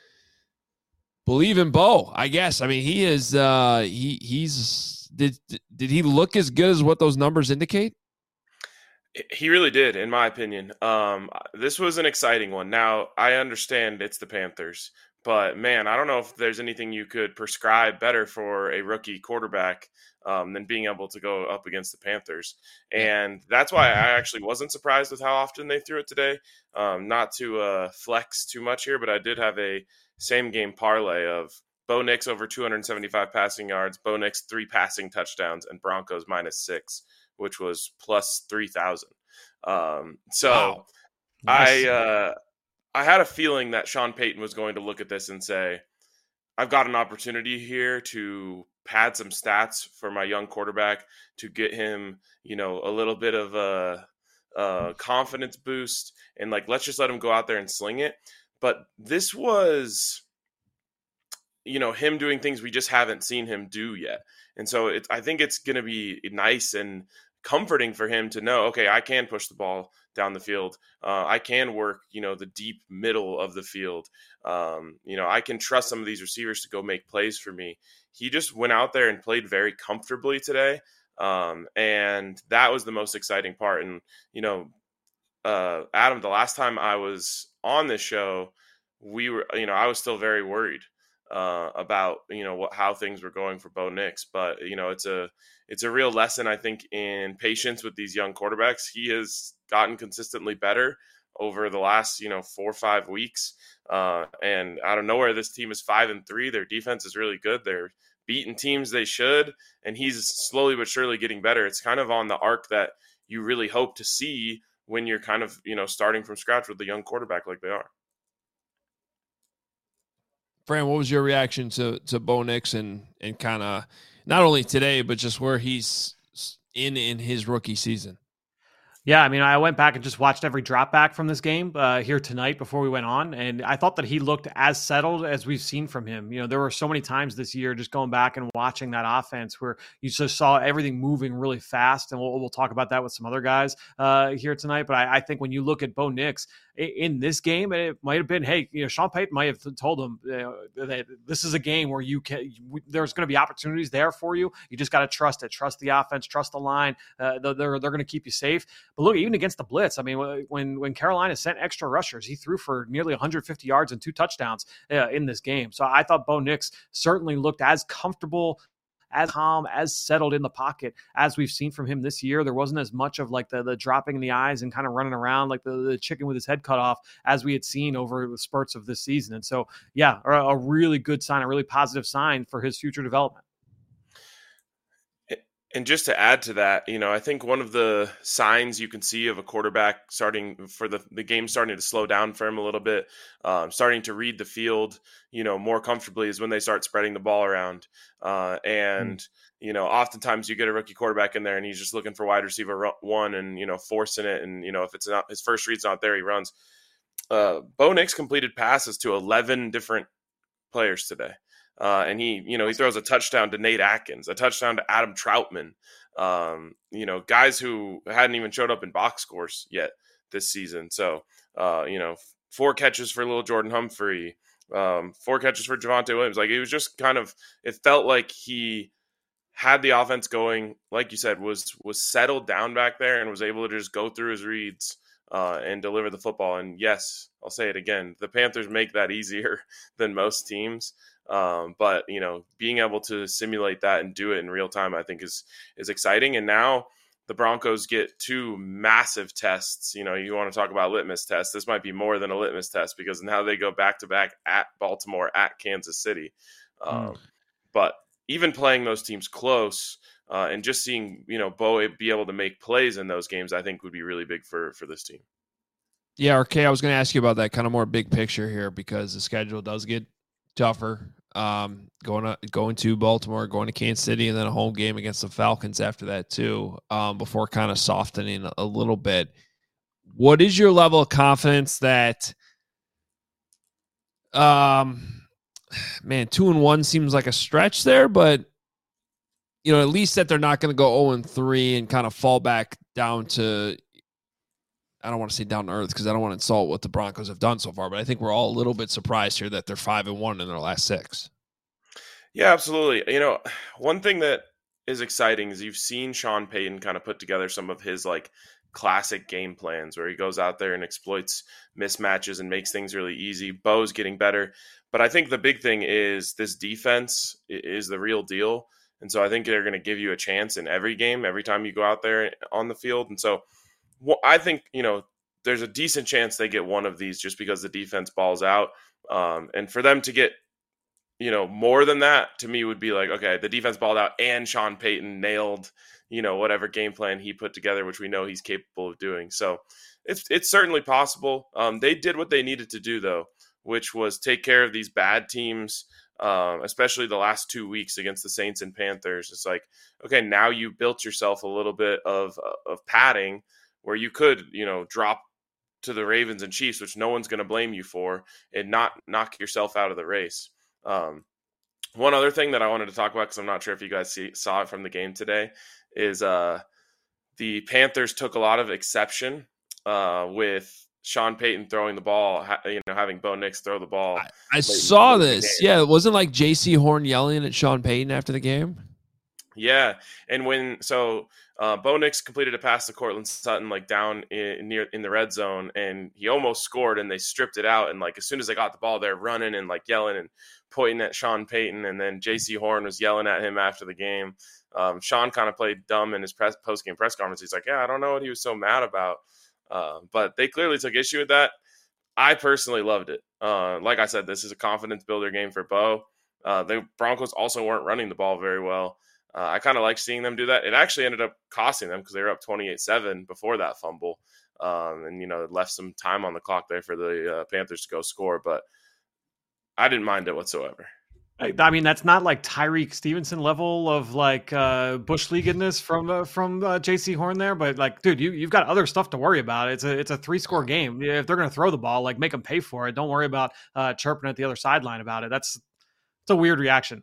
believe in Bo, I guess. I mean, he is uh he he's did did he look as good as what those numbers indicate? He really did, in my opinion. Um, this was an exciting one. Now, I understand it's the Panthers, but man, I don't know if there's anything you could prescribe better for a rookie quarterback um, than being able to go up against the Panthers. And that's why I actually wasn't surprised with how often they threw it today. Um, not to uh, flex too much here, but I did have a same game parlay of Bo Nix over two hundred seventy-five passing yards, Bo Nix three passing touchdowns, and Broncos minus six, which was plus three thousand. Um, so Wow. Nice. I uh, I had a feeling that Sean Payton was going to look at this and say, I've got an opportunity here to pad some stats for my young quarterback to get him, you know, a little bit of a, a confidence boost, and like, let's just let him go out there and sling it. But this was, you know, him doing things we just haven't seen him do yet. And so it's, I think it's going to be nice and comforting for him to know, okay, I can push the ball down the field. Uh, I can work, you know, the deep middle of the field. Um, you know, I can trust some of these receivers to go make plays for me. He just went out there and played very comfortably today. Um, and that was the most exciting part. And, you know, uh, Adam, the last time I was on this show, we were, you know, I was still very worried uh, about, you know, what, how things were going for Bo Nix. But, you know, it's a, it's a real lesson, I think, in patience with these young quarterbacks. He has gotten consistently better over the last, you know, four or five weeks. Uh, and out of nowhere, this team is five and three. Their defense is really good. They're beating teams they should, and he's slowly but surely getting better. It's kind of on the arc that you really hope to see when you're kind of, you know, starting from scratch with a young quarterback like they are. Fran, what was your reaction to to Bo Nix and and kind of not only today, but just where he's in in his rookie season? Yeah, I mean, I went back and just watched every drop back from this game uh, here tonight before we went on, and I thought that he looked as settled as we've seen from him. You know, there were so many times this year just going back and watching that offense where you just saw everything moving really fast, and we'll, we'll talk about that with some other guys uh, here tonight. But I, I think when you look at Bo Nix in this game, it might have been, hey, you know, Sean Payton might have told him you know, that this is a game where you can, there's going to be opportunities there for you. You just got to trust it, trust the offense, trust the line. Uh, they're they're going to keep you safe. But look, even against the blitz, I mean, when when Carolina sent extra rushers, he threw for nearly one hundred fifty yards and two touchdowns uh, in this game. So I thought Bo Nix certainly looked as comfortable, as calm, as settled in the pocket as we've seen from him this year. There wasn't as much of like the, the dropping in the eyes and kind of running around like the, the chicken with his head cut off as we had seen over the spurts of this season. And so, yeah, a, a really good sign, a really positive sign for his future development. And just to add to that, you know, I think one of the signs you can see of a quarterback starting for the, the game starting to slow down for him a little bit, um, starting to read the field, you know, more comfortably is when they start spreading the ball around. Uh, and, mm. you know, oftentimes you get a rookie quarterback in there and he's just looking for wide receiver one and, you know, forcing it. And, you know, if it's not his first read's not there, he runs. Uh, Bo Nix completed passes to eleven different players today. Uh, and he, you know, he throws a touchdown to Nate Atkins, a touchdown to Adam Troutman, um, you know, guys who hadn't even showed up in box scores yet this season. So, uh, you know, four catches for little Jordan Humphrey, um, four catches for Javonte Williams. Like, it was just kind of, it felt like he had the offense going, like you said, was, was settled down back there and was able to just go through his reads uh, and deliver the football. And yes, I'll say it again, the Panthers make that easier than most teams. Um, but, you know, being able to simulate that and do it in real time, I think is, is exciting. And now the Broncos get two massive tests. You know, you want to talk about litmus tests. This might be more than a litmus test because now they go back to back at Baltimore, at Kansas City. Um, mm. But even playing those teams close uh, and just seeing, you know, Bo be able to make plays in those games, I think would be really big for, for this team. Yeah. R K, I was going to ask you about that kind of more big picture here because the schedule does get tougher, um, going to going to Baltimore, going to Kansas City, and then a home game against the Falcons after that too, um, before kind of softening a little bit. What is your level of confidence that, um, man, two and one seems like a stretch there, but you know, at least that they're not going to go zero and three and kind of fall back down to I don't want to say down to earth because I don't want to insult what the Broncos have done so far, but I think we're all a little bit surprised here that they're five and one in their last six. Yeah, absolutely. You know, one thing that is exciting is you've seen Sean Payton kind of put together some of his like classic game plans where he goes out there and exploits mismatches and makes things really easy. Bo's getting better. But I think the big thing is this defense is the real deal. And so I think they're going to give you a chance in every game, every time you go out there on the field. And so well, I think, you know, there's a decent chance they get one of these just because the defense balls out. Um, and for them to get, you know, more than that to me would be like, okay, the defense balled out and Sean Payton nailed, you know, whatever game plan he put together, which we know he's capable of doing. So it's it's certainly possible. Um, they did what they needed to do, though, which was take care of these bad teams, um, especially the last two weeks against the Saints and Panthers. It's like, okay, now you built yourself a little bit of of padding where you could, you know, drop to the Ravens and Chiefs, which no one's going to blame you for, and not knock yourself out of the race. Um, one other thing that I wanted to talk about, because I'm not sure if you guys see, saw it from the game today, is uh, the Panthers took a lot of exception uh, with Sean Payton throwing the ball, ha- you know, having Bo Nix throw the ball. I, I saw this. Yeah, it wasn't like J C Horn yelling at Sean Payton after the game. Yeah, and when so uh, Bo Nix completed a pass to Cortland Sutton like down in, near in the red zone, and he almost scored, and they stripped it out. And like as soon as they got the ball, they're running and like yelling and pointing at Sean Payton, and then J C Horn was yelling at him after the game. Um, Sean kind of played dumb in his press, post-game press conference. He's like, yeah, I don't know what he was so mad about. Uh, but they clearly took issue with that. I personally loved it. Uh, like I said, this is a confidence builder game for Bo. Uh, the Broncos also weren't running the ball very well. Uh, I kind of like seeing them do that. It actually ended up costing them because they were up twenty-eight seven before that fumble. Um, and, you know, it left some time on the clock there for the uh, Panthers to go score. But I didn't mind it whatsoever. I mean, that's not like Tyreek Stevenson level of like uh, bush leaguedness from uh, from uh, J C Horn there, but like, dude, you you've got other stuff to worry about. It's a it's a three score game. If they're going to throw the ball, like make them pay for it. Don't worry about uh, chirping at the other sideline about it. That's it's a weird reaction.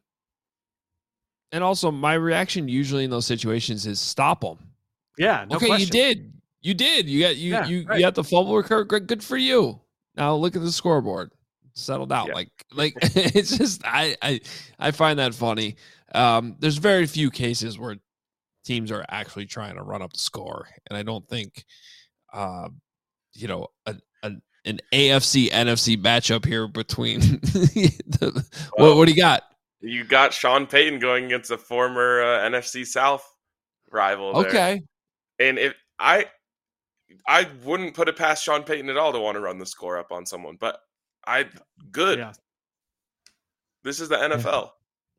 And also, my reaction usually in those situations is stop them. Yeah. No okay, question. you did. You did. You got you Yeah, you, right. you got the fumble recovery. Good, good for you. Now look at the scoreboard. Settled out. Yeah. Like like it's just I I I find that funny. Um, there's very few cases where teams are actually trying to run up the score, and I don't think, uh, you know, a, a an A F C N F C matchup here between the, Well, what what do you got? You got Sean Payton going against a former uh, N F C South rival there. Okay. And if I I wouldn't put it past Sean Payton at all to want to run the score up on someone, but I good. Yeah. This is the N F L.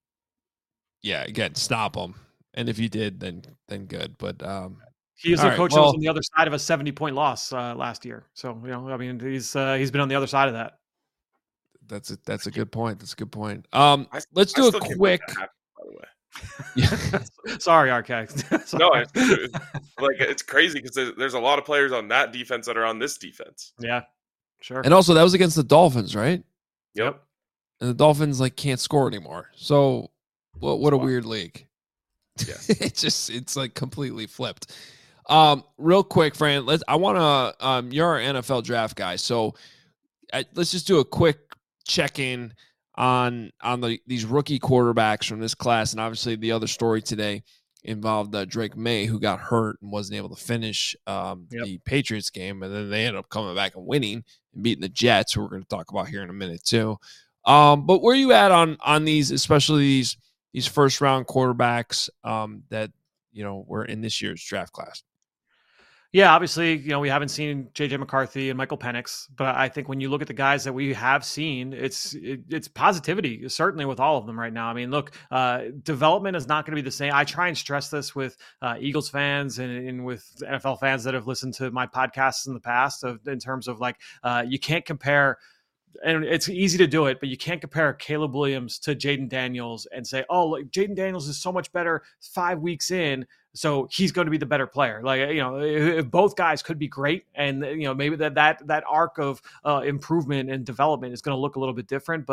Yeah, again, stop them. And if you did, then then good. But um, He is all a right, coach well- that was on the other side of a seventy point loss uh, last year. So, you know, I mean, he's uh, he's been on the other side of that. that's a that's a good point. That's a good point. Um, I- let's I do still a can't quick. make that happen, by the way. Yeah. Sorry, R K. No, it's, it's like it's crazy because there's, there's a lot of players on that defense that are on this defense. Yeah, sure. And also, that was against the Dolphins, right? Yep. And the Dolphins like can't score anymore. So, what what a Wow. weird league. Yeah. it's just it's like completely flipped. Um, real quick, Fran, let's. I want to. Um, you're our N F L draft guy, so I, let's just do a quick check in on on the these rookie quarterbacks from this class, and obviously the other story today involved uh, Drake May, who got hurt and wasn't able to finish um, Yep. the Patriots game, and then they ended up coming back and winning and beating the Jets, who we're going to talk about here in a minute too. Um, but where are you at on on these, especially these these first round quarterbacks um, that you know were in this year's draft class? Yeah, obviously, you know, we haven't seen J J McCarthy and Michael Penix, but I think when you look at the guys that we have seen, it's it, it's positivity, certainly with all of them right now. I mean, look, uh, development is not going to be the same. I try and stress this with uh, Eagles fans and, and with N F L fans that have listened to my podcasts in the past of, in terms of like, uh, you can't compare, and it's easy to do it, but you can't compare Caleb Williams to Jaden Daniels and say, oh, like Jaden Daniels is so much better five weeks in, so he's going to be the better player. Like, you know, if both guys could be great, and you know, maybe that that that arc of uh, improvement and development is going to look a little bit different. But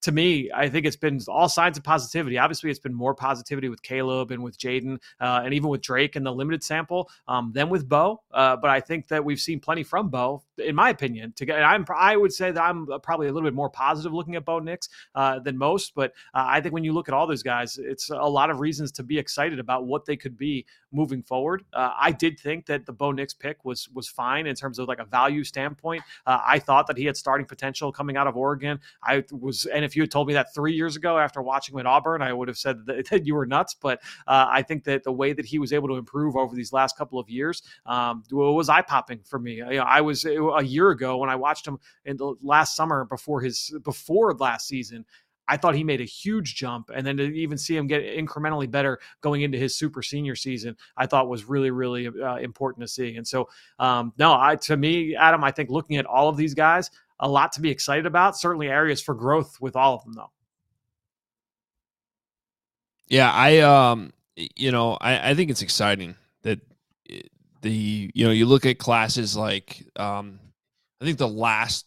to me, I think it's been all signs of positivity. Obviously, it's been more positivity with Caleb and with Jaden uh, and even with Drake in the limited sample um, than with Bo. Uh, but I think that we've seen plenty from Bo, in my opinion. To get, I'm, I would say that I'm probably a little bit more positive looking at Bo Nix uh, than most. But uh, I think when you look at all those guys, it's a lot of reasons to be excited about what they could be moving forward. Uh, I did think that the Bo Nix pick was was fine in terms of like a value standpoint. Uh, I thought that he had starting potential coming out of Oregon. I was, and if you had told me that three years ago after watching him at Auburn, I would have said that, that you were nuts. But uh, I think that the way that he was able to improve over these last couple of years um, was eye popping for me. You know, I was a year ago when I watched him in the last summer before his before last season. I thought he made a huge jump, and then to even see him get incrementally better going into his super senior season, I thought was really, really uh, important to see. And so, um, no, I to me, Adam, I think looking at all of these guys, a lot to be excited about. Certainly areas for growth with all of them, though. Yeah, I, um, you know, I, I think it's exciting that the, you know, you look at classes like, um, I think the last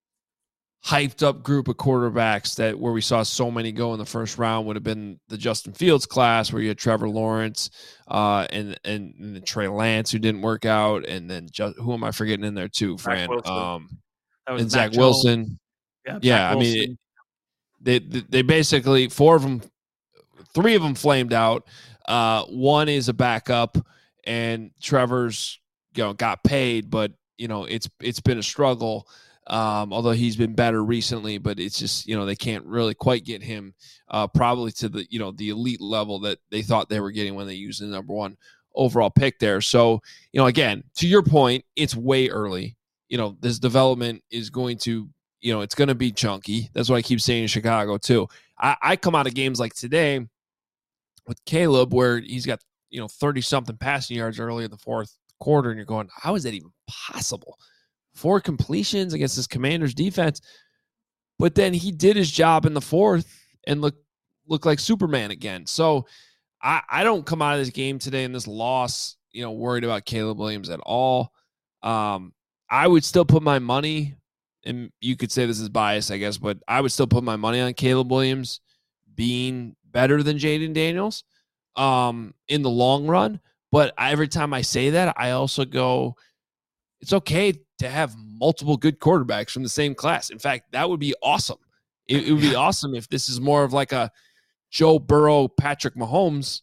hyped up group of quarterbacks that where we saw so many go in the first round would have been the Justin Fields class, where you had Trevor Lawrence uh, and, and and Trey Lance, who didn't work out, and then just, who am I forgetting in there too, Fran? Um, and Zach Jones. Wilson. Yeah, yeah I Wilson. mean, it, they they basically four of them, three of them flamed out. Uh, one is a backup, and Trevor's you know got paid, but you know it's it's been a struggle. Um, although he's been better recently, but it's just, you know, they can't really quite get him uh, probably to the, you know, the elite level that they thought they were getting when they used the number one overall pick there. So, you know, again, to your point, it's way early. You know, this development is going to, you know, it's going to be chunky. That's what I keep saying in Chicago too. I, I come out of games like today with Caleb where he's got, you know, thirty something passing yards early in the fourth quarter. And you're going, how is that even possible? Four completions against this Commanders defense. But then he did his job in the fourth and look look like Superman again. So I, I don't come out of this game today in this loss, you know, worried about Caleb Williams at all. Um, I would still put my money, and you could say this is bias, I guess, but I would still put my money on Caleb Williams being better than Jaden Daniels um, in the long run. But every time I say that, I also go, it's okay to have multiple good quarterbacks from the same class. In fact, that would be awesome. It, it would be awesome if this is more of like a Joe Burrow, Patrick Mahomes,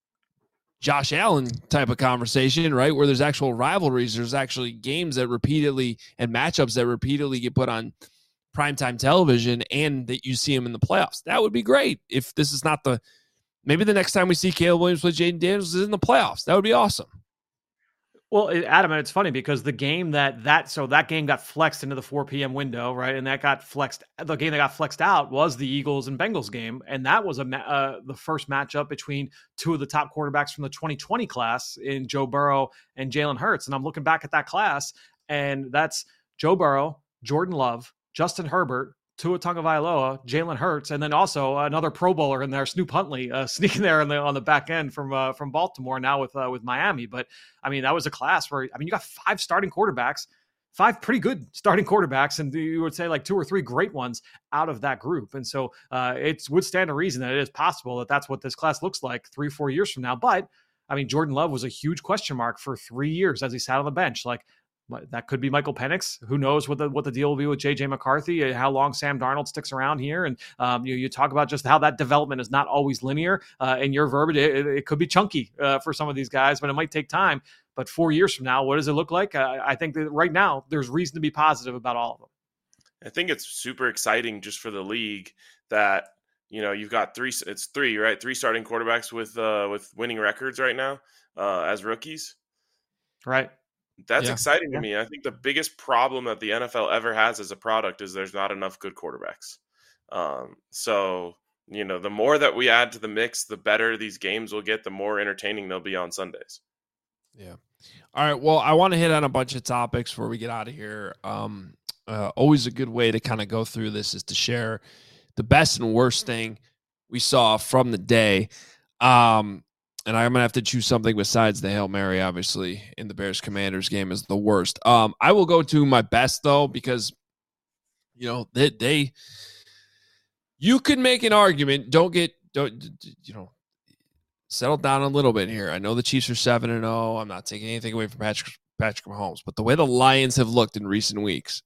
Josh Allen type of conversation, right? Where there's actual rivalries. There's actually games that repeatedly and matchups that repeatedly get put on primetime television and that you see them in the playoffs. That would be great if this is not the, maybe the next time we see Caleb Williams play Jaden Daniels is in the playoffs. That would be awesome. Well, Adam, and it's funny because the game that that so that game got flexed into the four p.m. window, right? And that got flexed. The game that got flexed out was the Eagles and Bengals game, and that was a uh, the first matchup between two of the top quarterbacks from the twenty twenty class in Joe Burrow and Jalen Hurts. And I'm looking back at that class, and that's Joe Burrow, Jordan Love, Justin Herbert, Tua Tagovailoa, Jalen Hurts, and then also another Pro Bowler in there, Snoop Huntley, uh, sneaking there on the on the back end from uh, from Baltimore now with uh, with Miami. But I mean, that was a class where I mean, you got five starting quarterbacks, five pretty good starting quarterbacks, and you would say like two or three great ones out of that group. And so uh, it would stand to reason that it is possible that that's what this class looks like three, four years from now. But I mean, Jordan Love was a huge question mark for three years as he sat on the bench, like. That could be Michael Penix. Who knows what the what the deal will be with J J McCarthy, how long Sam Darnold sticks around here. And um, you, you talk about just how that development is not always linear. Uh, in your verbiage, it, it could be chunky uh, for some of these guys, but it might take time. But four years from now, what does it look like? Uh, I think that right now there's reason to be positive about all of them. I think it's super exciting just for the league that, you know, you've got three, it's three, right? Three starting quarterbacks with uh, with winning records right now uh, as rookies. Right. That's yeah. exciting to me. I think the biggest problem that the N F L ever has as a product is there's not enough good quarterbacks. Um, so, you know, the more that we add to the mix, the better these games will get, the more entertaining they'll be on Sundays. Yeah. All right. Well, I want to hit on a bunch of topics before we get out of here. Um, uh, always a good way to kind of go through this is to share the best and worst thing we saw from the day. Um, And I'm going to have to choose something besides the Hail Mary, obviously, in the Bears-Commanders game is the worst. Um, I will go to my best, though, because, you know, they, they You could make an argument. Don't get don't you know settle down a little bit here. I know the Chiefs are seven and zero. I'm not taking anything away from Patrick Patrick Mahomes, but the way the Lions have looked in recent weeks,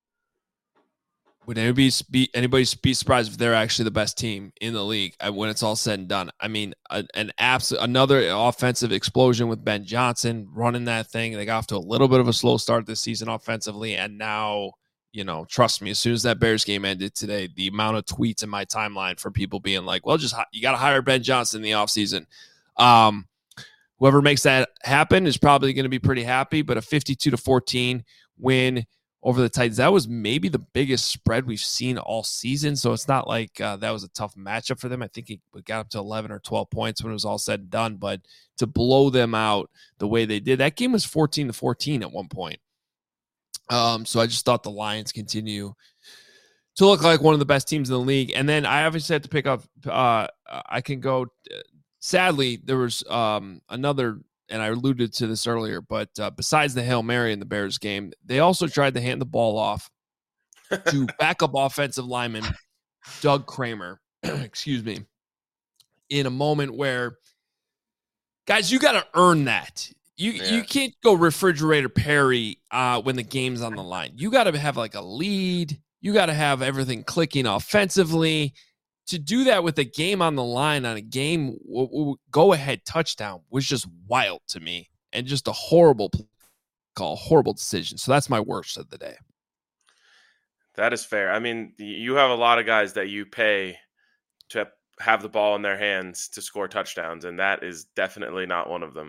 would anybody be anybody be surprised if they're actually the best team in the league when it's all said and done? I mean, a, an absolute another offensive explosion with Ben Johnson running that thing. They got off to a little bit of a slow start this season offensively, and now. You know, trust me, as soon as that Bears game ended today, the amount of tweets in my timeline from people being like, well, just you got to hire Ben Johnson in the offseason. Um, whoever makes that happen is probably going to be pretty happy, but a fifty-two to fourteen win over the Titans, that was maybe the biggest spread we've seen all season. So it's not like uh, that was a tough matchup for them. I think it got up to eleven or twelve points when it was all said and done, but to blow them out the way they did, that game was fourteen to fourteen at one point. Um, so I just thought the Lions continue to look like one of the best teams in the league. And then I obviously had to pick up, uh, I can go, sadly, there was um, another, and I alluded to this earlier, but uh, besides the Hail Mary in the Bears game, they also tried to hand the ball off to backup offensive lineman Doug Kramer, excuse me, in a moment where, guys, you got to earn that. You yeah. you can't go refrigerator Perry uh, when the game's on the line. You got to have like a lead. You got to have everything clicking offensively. To do that with a game on the line on a game w- w- go-ahead touchdown was just wild to me and just a horrible call, horrible decision. So that's my worst of the day. That is fair. I mean, you have a lot of guys that you pay to have the ball in their hands to score touchdowns, and that is definitely not one of them.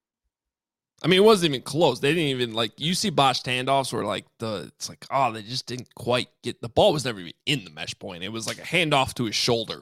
I mean, it wasn't even close. They didn't even, like, you see botched handoffs where, like, the it's like, oh, they just didn't quite get, the ball was never even in the mesh point. It was like a handoff to his shoulder.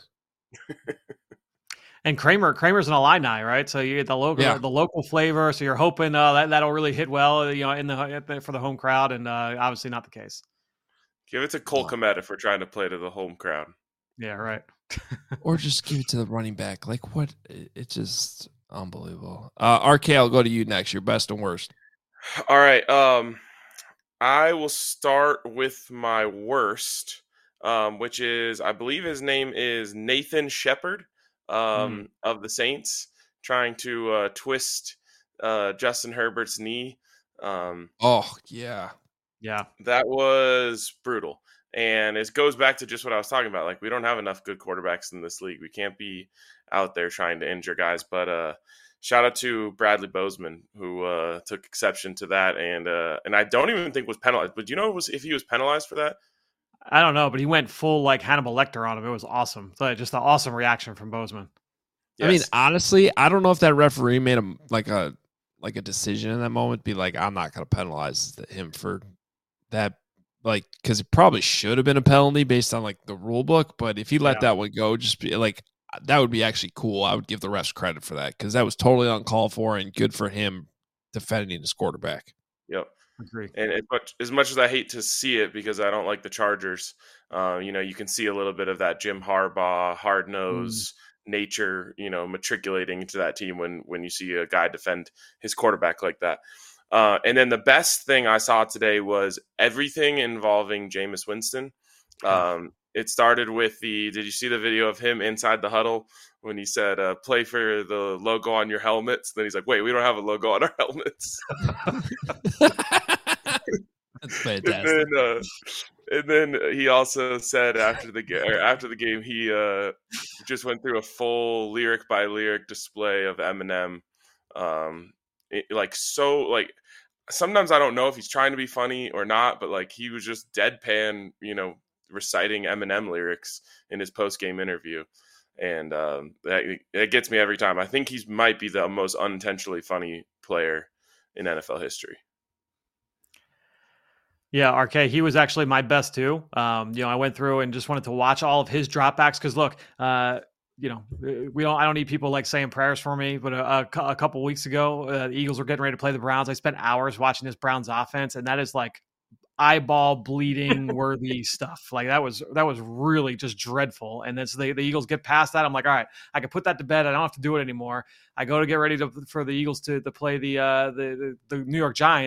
And Kramer, Kramer's an Illini, right? So you get the local, yeah. the local flavor. So you're hoping uh, that that'll really hit well, you know, in the for the home crowd, and uh, obviously not the case. Give it to Cole Kmet if we're trying to play to the home crowd. Yeah, right. Or just give it to the running back. Like, what? It just. Unbelievable. Uh, R K, I'll go to you next. Your best and worst. All right. Um, I will start with my worst, um, which is, I believe his name is Nathan Shepard um, mm. of the Saints, trying to uh, twist uh, Justin Herbert's knee. Um, oh, yeah. Yeah. That was brutal. And it goes back to just what I was talking about. Like, we don't have enough good quarterbacks in this league. We can't be out there trying to injure guys. But uh, shout out to Bradley Bozeman, who uh, took exception to that. And uh, and I don't even think was penalized. But do you know was if he was penalized for that? I don't know, but he went full like Hannibal Lecter on him. It was awesome. So just an awesome reaction from Bozeman. Yes. I mean, honestly, I don't know if that referee made a like a like a decision in that moment. Be like, I'm not going to penalize him for that. Like, because it probably should have been a penalty based on like the rule book, but if he let yeah. that one go, just be like, that would be actually cool. I would give the refs credit for that because that was totally uncalled for and good for him defending his quarterback. Yep, agree. And as much, as much as I hate to see it because I don't like the Chargers, uh, you know, you can see a little bit of that Jim Harbaugh hard nose mm. nature, you know, matriculating into that team when when you see a guy defend his quarterback like that. Uh, and then the best thing I saw today was everything involving Jameis Winston. Um, it started with the, did you see the video of him inside the huddle when he said, uh, play for the logo on your helmets? Then he's like, wait, we don't have a logo on our helmets. That's fantastic. And then, uh, and then he also said after the, ga- after the game, he uh, just went through a full lyric by lyric display of Eminem. Um, it, like, so like, sometimes I don't know if he's trying to be funny or not, but like he was just deadpan, you know, reciting Eminem lyrics in his post-game interview. And um, that, it gets me every time. I think he might be the most unintentionally funny player in N F L history. Yeah, R K, he was actually my best too. Um, you know, I went through and just wanted to watch all of his dropbacks because look, uh, you know, we don't. I don't need people like saying prayers for me. But a, a, a couple weeks ago, uh, the Eagles were getting ready to play the Browns. I spent hours watching this Browns offense, and that is like eyeball bleeding worthy stuff. Like that was that was really just dreadful. And then so the, the Eagles get past that. I'm like, all right, I can put that to bed. I don't have to do it anymore. I go to get ready to, for the Eagles to, to play the, uh, the the the New York Giants,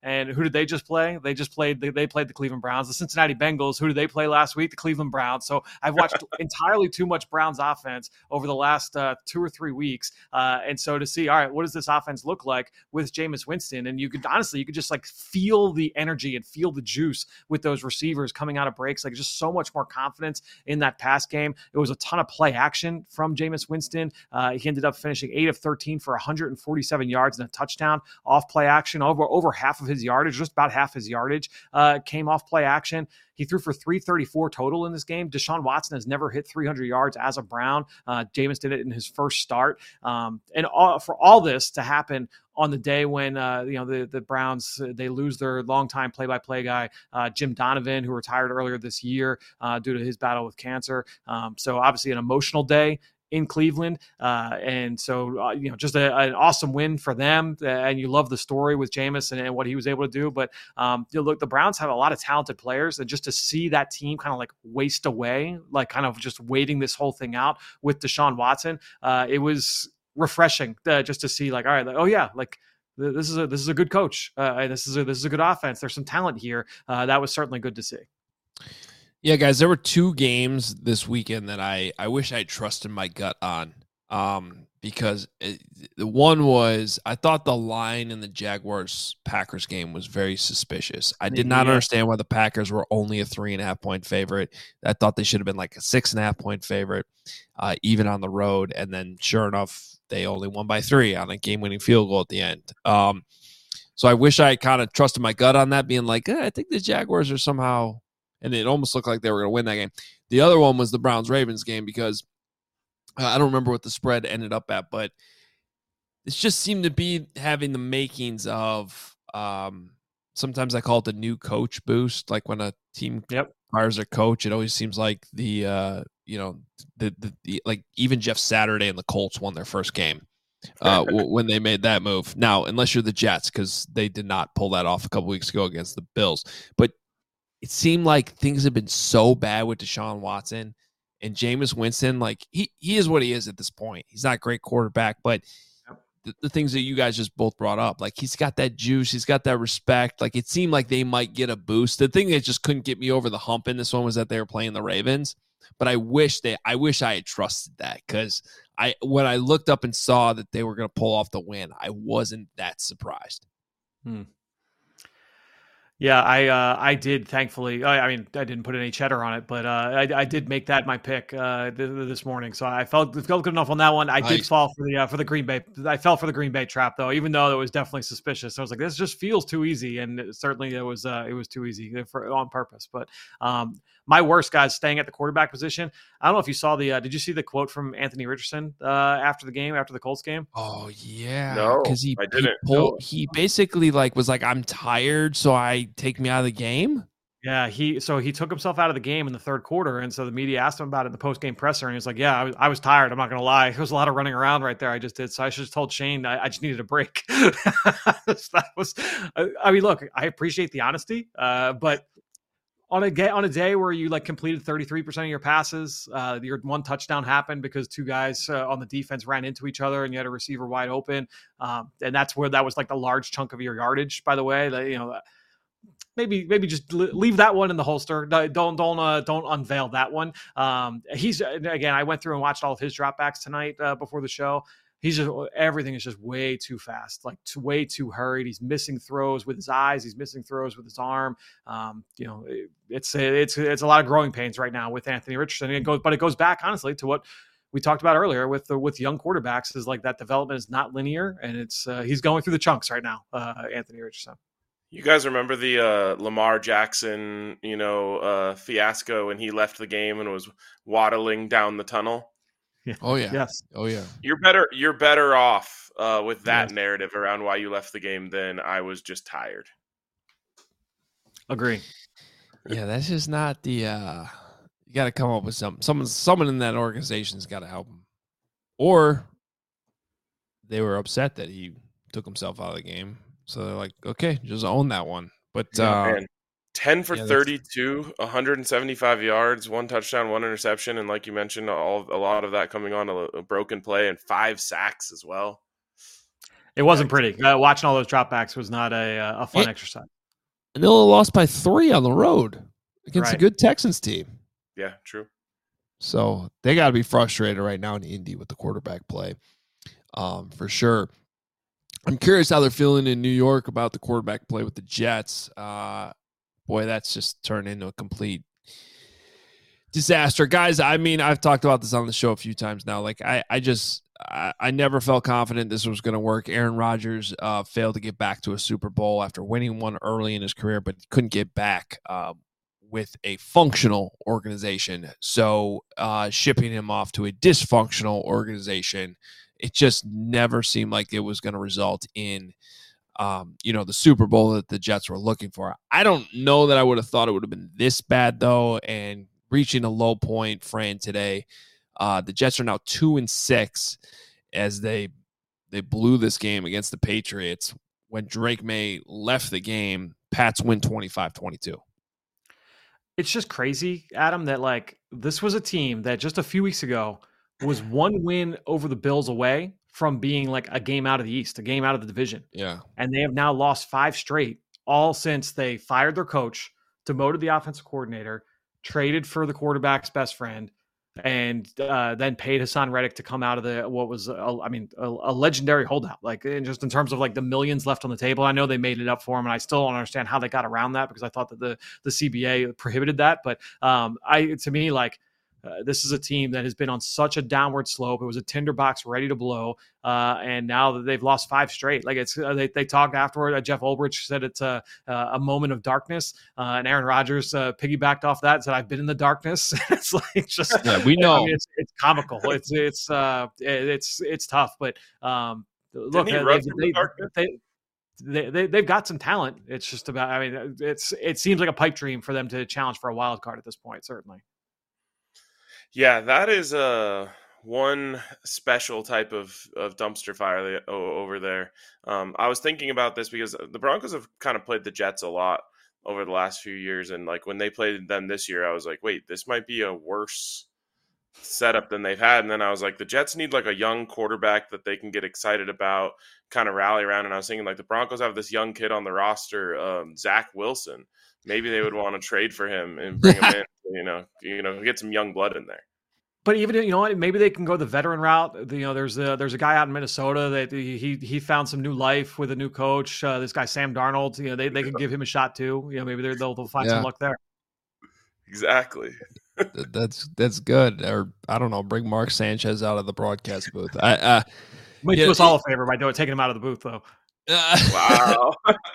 And who did they just play? They just played. They, they played the Cleveland Browns. The Cincinnati Bengals. Who did they play last week? The Cleveland Browns. So I've watched entirely too much Browns offense over the last uh, two or three weeks, uh, and so to see, all right, what does this offense look like with Jameis Winston? And you could honestly, you could just like feel the energy and feel the juice with those receivers coming out of breaks. Like just so much more confidence in that pass game. It was a ton of play action from Jameis Winston. Uh, he ended up finishing eight of thirteen for one hundred forty-seven yards and a touchdown off play action. Over over half of his yardage, just about half his yardage, uh, came off play action. He threw for three thirty-four total in this game. Deshaun Watson has never hit three hundred yards as a Brown. Uh, Jameis did it in his first start. Um, and all, for all this to happen on the day when uh, you know the the Browns, they lose their longtime play-by-play guy, uh, Jim Donovan, who retired earlier this year uh, due to his battle with cancer. Um, so obviously an emotional day in Cleveland. Uh, and so, uh, you know, just a, an awesome win for them. Uh, and you love the story with Jameis and, and what he was able to do. But um, you know, look, the Browns have a lot of talented players, and just to see that team kind of like waste away, like kind of just waiting this whole thing out with Deshaun Watson, uh, it was refreshing uh, just to see like, all right, like, oh yeah, like, this is a this is a good coach. Uh, this is a this is a good offense. There's some talent here. Uh, that was certainly good to see. Yeah, guys, there were two games this weekend that I, I wish I trusted my gut on, um, because it, the one was I thought the line in the Jaguars-Packers game was very suspicious. I did not yeah. understand why the Packers were only a three and a half point favorite. I thought they should have been like a six and a half point favorite, uh, even on the road. And then, sure enough, they only won by three on a game-winning field goal at the end. Um, so I wish I kind of trusted my gut on that, being like, eh, I think the Jaguars are somehow. And it almost looked like they were going to win that game. The other one was the Browns-Ravens game because uh, I don't remember what the spread ended up at, but it just seemed to be having the makings of um, sometimes I call it the new coach boost. Like when a team yep. hires a coach, it always seems like the, uh, you know, the, the, the like even Jeff Saturday and the Colts won their first game uh, w- when they made that move. Now, unless you're the Jets, because they did not pull that off a couple weeks ago against the Bills. But it seemed like things have been so bad with Deshaun Watson and Jameis Winston. Like he, he is what he is at this point. He's not a great quarterback, but the, the things that you guys just both brought up, like he's got that juice, he's got that respect. Like it seemed like they might get a boost. The thing that just couldn't get me over the hump in this one was that they were playing the Ravens. But I wish they, I wish I had trusted that because I, when I looked up and saw that they were going to pull off the win, I wasn't that surprised. Hmm. Yeah, I uh, I did. Thankfully, I, I mean, I didn't put any cheddar on it, but uh, I, I did make that my pick uh, th- this morning. So I felt felt good enough on that one. I nice. did fall for the uh, for the Green Bay. I fell for the Green Bay trap though, even though it was definitely suspicious. I was like, this just feels too easy, and it, certainly it was uh, it was too easy for on purpose. But um, my worst guys staying at the quarterback position. I don't know if you saw the. Uh, did you see the quote from Anthony Richardson uh, after the game, after the Colts game? Oh yeah, no, because he I didn't. He, pulled, he basically like was like, I'm tired, so I take me out of the game. Yeah, he so he took himself out of the game in the third quarter, and so the media asked him about it in the post game presser, and he was like, "Yeah, I was, I was tired. I'm not going to lie. There was a lot of running around right there. I just did. So I should have told Shane I, I just needed a break." That was. I mean, look, I appreciate the honesty, uh, but. On a ga- on a day where you like completed thirty-three percent of your passes, uh, your one touchdown happened because two guys uh, on the defense ran into each other and you had a receiver wide open. Um, and that's where that was like the large chunk of your yardage, by the way. That, you know, maybe maybe just leave that one in the holster. Don't don't uh, don't unveil that one. Um, he's again, I went through and watched all of his dropbacks tonight uh, before the show. He's just everything is just way too fast, like too, way too hurried. He's missing throws with his eyes. He's missing throws with his arm. Um, you know, it, it's it's it's a lot of growing pains right now with Anthony Richardson. It goes, but it goes back honestly to what we talked about earlier with the, with young quarterbacks is like that development is not linear, and it's uh, he's going through the chunks right now. Uh, Anthony Richardson. You guys remember the uh, Lamar Jackson, you know, uh, fiasco when he left the game and was waddling down the tunnel? Yeah. Oh yeah. Yes. Oh yeah. You're better. You're better off uh, with that yes. narrative around why you left the game than I was just tired. Agree. Yeah, that's just not the. Uh, you got to come up with something. Someone, someone in that organization's got to help him, or they were upset that he took himself out of the game. So they're like, okay, just own that one. But yeah, uh, man. ten for yeah, thirty-two, one hundred seventy-five yards, one touchdown, one interception, and like you mentioned, all a lot of that coming on a, a broken play and five sacks as well. It wasn't pretty. Uh, watching all those dropbacks was not a a fun it, exercise. And they only lost by three on the road against Right. a good Texans team. Yeah, true. So they got to be frustrated right now in Indy with the quarterback play, um, for sure. I'm curious how they're feeling in New York about the quarterback play with the Jets. Uh, boy, that's just turned into a complete disaster. Guys, I mean, I've talked about this on the show a few times now. Like, I, I just, I, I never felt confident this was going to work. Aaron Rodgers uh, failed to get back to a Super Bowl after winning one early in his career, but couldn't get back uh, with a functional organization. So uh, shipping him off to a dysfunctional organization, it just never seemed like it was going to result in, um, you know, the Super Bowl that the Jets were looking for. I don't know that I would have thought it would have been this bad, though, and reaching a low point, Fran, today. Uh, the Jets are now two and six as they they blew this game against the Patriots. When Drake May left the game, Pats win twenty-five twenty-two. It's just crazy, Adam, that like this was a team that just a few weeks ago was one win over the Bills away from being like a game out of the East, a game out of the division. Yeah. And they have now lost five straight, all since they fired their coach, demoted the offensive coordinator, traded for the quarterback's best friend, and uh, then paid Hassan Reddick to come out of the what was, a, I mean, a, a legendary holdout. Like, in just in terms of like the millions left on the table, I know they made it up for him, and I still don't understand how they got around that because I thought that the the C B A prohibited that. But um, I, to me, like. Uh, this is a team that has been on such a downward slope. It was a tinderbox ready to blow, uh, and now that they've lost five straight, like it's uh, they they talked afterward. Uh, Jeff Ulbrich said it's a a moment of darkness, uh, and Aaron Rodgers uh, piggybacked off that and said, "I've been in the darkness." It's like just yeah, we know I mean, it's, it's comical. It's it's uh, it's it's tough, but um, look, Didn't he they, run they, from the darkness? they, they, they they've got some talent. It's just about. I mean, it's it seems like a pipe dream for them to challenge for a wild card at this point. Certainly. Yeah, that is a one special type of, of dumpster fire that, oh, over there. Um, I was thinking about this because the Broncos have kind of played the Jets a lot over the last few years, and like when they played them this year, I was like, wait, this might be a worse setup than they've had. And then I was like, the Jets need like a young quarterback that they can get excited about, kind of rally around. And I was thinking like the Broncos have this young kid on the roster, um, Zach Wilson. Maybe they would want to trade for him and bring him in, you know, you know, get some young blood in there. But even, you know what, maybe they can go the veteran route. You know, there's a, there's a guy out in Minnesota that he he found some new life with a new coach. Uh, this guy, Sam Darnold, you know, they, they could give him a shot too. You know, maybe they'll, they'll find Yeah. some luck there. Exactly. that's that's good. Or I don't know, bring Mark Sanchez out of the broadcast booth. I uh, Might yeah, do us all a favor by doing taking him out of the booth, though. uh, Wow.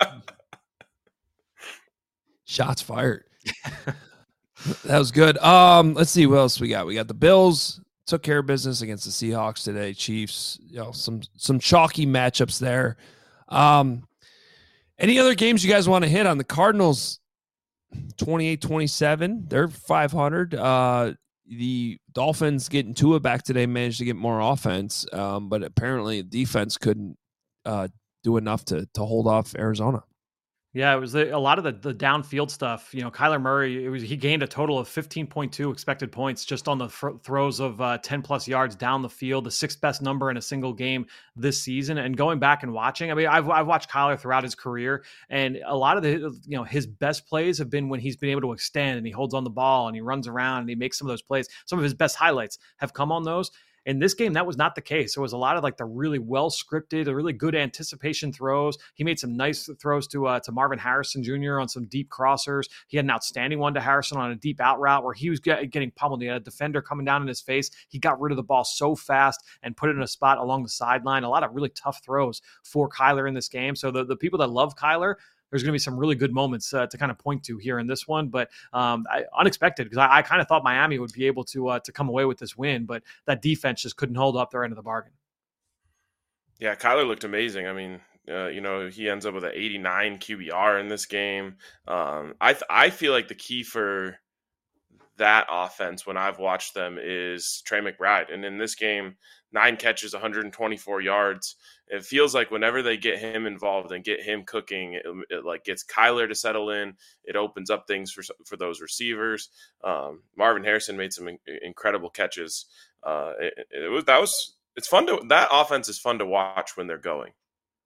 shots fired. That was good. Um, let's see what else we got. We got the Bills took care of business against the Seahawks today. Chiefs, you know, some some chalky matchups there. Um, any other games you guys want to hit on? The Cardinals, twenty-eight twenty-seven. They're five hundred. Uh, the Dolphins getting Tua back today managed to get more offense, um, but apparently defense couldn't uh, do enough to to hold off Arizona. Yeah, it was the, a lot of the, the downfield stuff. You know, Kyler Murray, it was, he gained a total of fifteen point two expected points just on the fr- throws of uh, ten plus yards down the field, the sixth best number in a single game this season. And going back and watching, I mean, I've, I've watched Kyler throughout his career, and a lot of the, you know, his best plays have been when he's been able to extend and he holds on the ball and he runs around and he makes some of those plays. Some of his best highlights have come on those. In this game, that was not the case. It was a lot of like the really well scripted, a really good anticipation throws. He made some nice throws to uh, to Marvin Harrison Junior on some deep crossers. He had an outstanding one to Harrison on a deep out route where he was get, getting pummeled. He had a defender coming down in his face. He got rid of the ball so fast and put it in a spot along the sideline. A lot of really tough throws for Kyler in this game. So the, the people that love Kyler, there's going to be some really good moments uh, to kind of point to here in this one, but um, I, unexpected because I, I kind of thought Miami would be able to uh, to come away with this win, but that defense just couldn't hold up their end of the bargain. Yeah, Kyler looked amazing. I mean, uh, you know, he ends up with an eighty-nine Q B R in this game. Um, I th- I feel like the key for that offense when I've watched them is Trey McBride, and in this game, nine catches, one hundred twenty-four yards. It feels like whenever they get him involved and get him cooking, it, it like gets Kyler to settle in. It opens up things for for those receivers. Um, Marvin Harrison made some in, incredible catches. Uh, it, it was that was it's fun to that offense is fun to watch when they're going.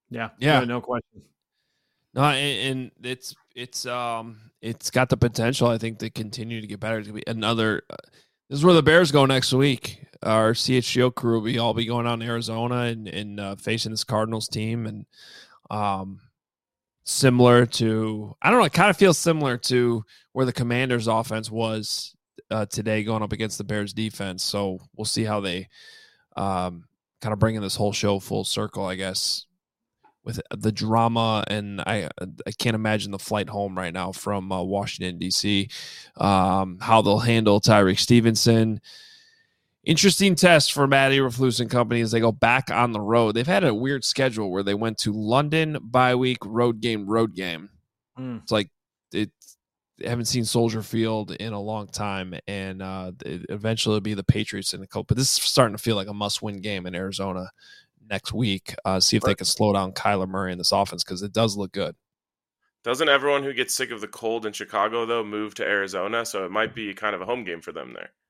Yeah, Yeah, no, no question. No, and, and it's it's um it's got the potential, I think, to continue to get better. It's gonna be another. Uh, this is where the Bears go next week. Our C H G O crew will be all be going out in Arizona and and uh, facing this Cardinals team, and um, similar to I don't know. It kind of feels similar to where the Commanders' offense was uh, today, going up against the Bears' defense. So we'll see how they um kind of bringing this whole show full circle, I guess, with the drama, and I I can't imagine the flight home right now from uh, Washington, D C, um, how they'll handle Tyreek Stevenson. Interesting test for Matt Eberflus and company as they go back on the road. They've had a weird schedule where they went to London, bye week, road game, road game. Mm. It's like it, they haven't seen Soldier Field in a long time, and uh, it eventually it'll be the Patriots in the coat. But this is starting to feel like a must-win game in Arizona next week. Uh, see if they can slow down Kyler Murray in this offense, because it does look good. Doesn't everyone who gets sick of the cold in Chicago, though, move to Arizona? So it might be kind of a home game for them there.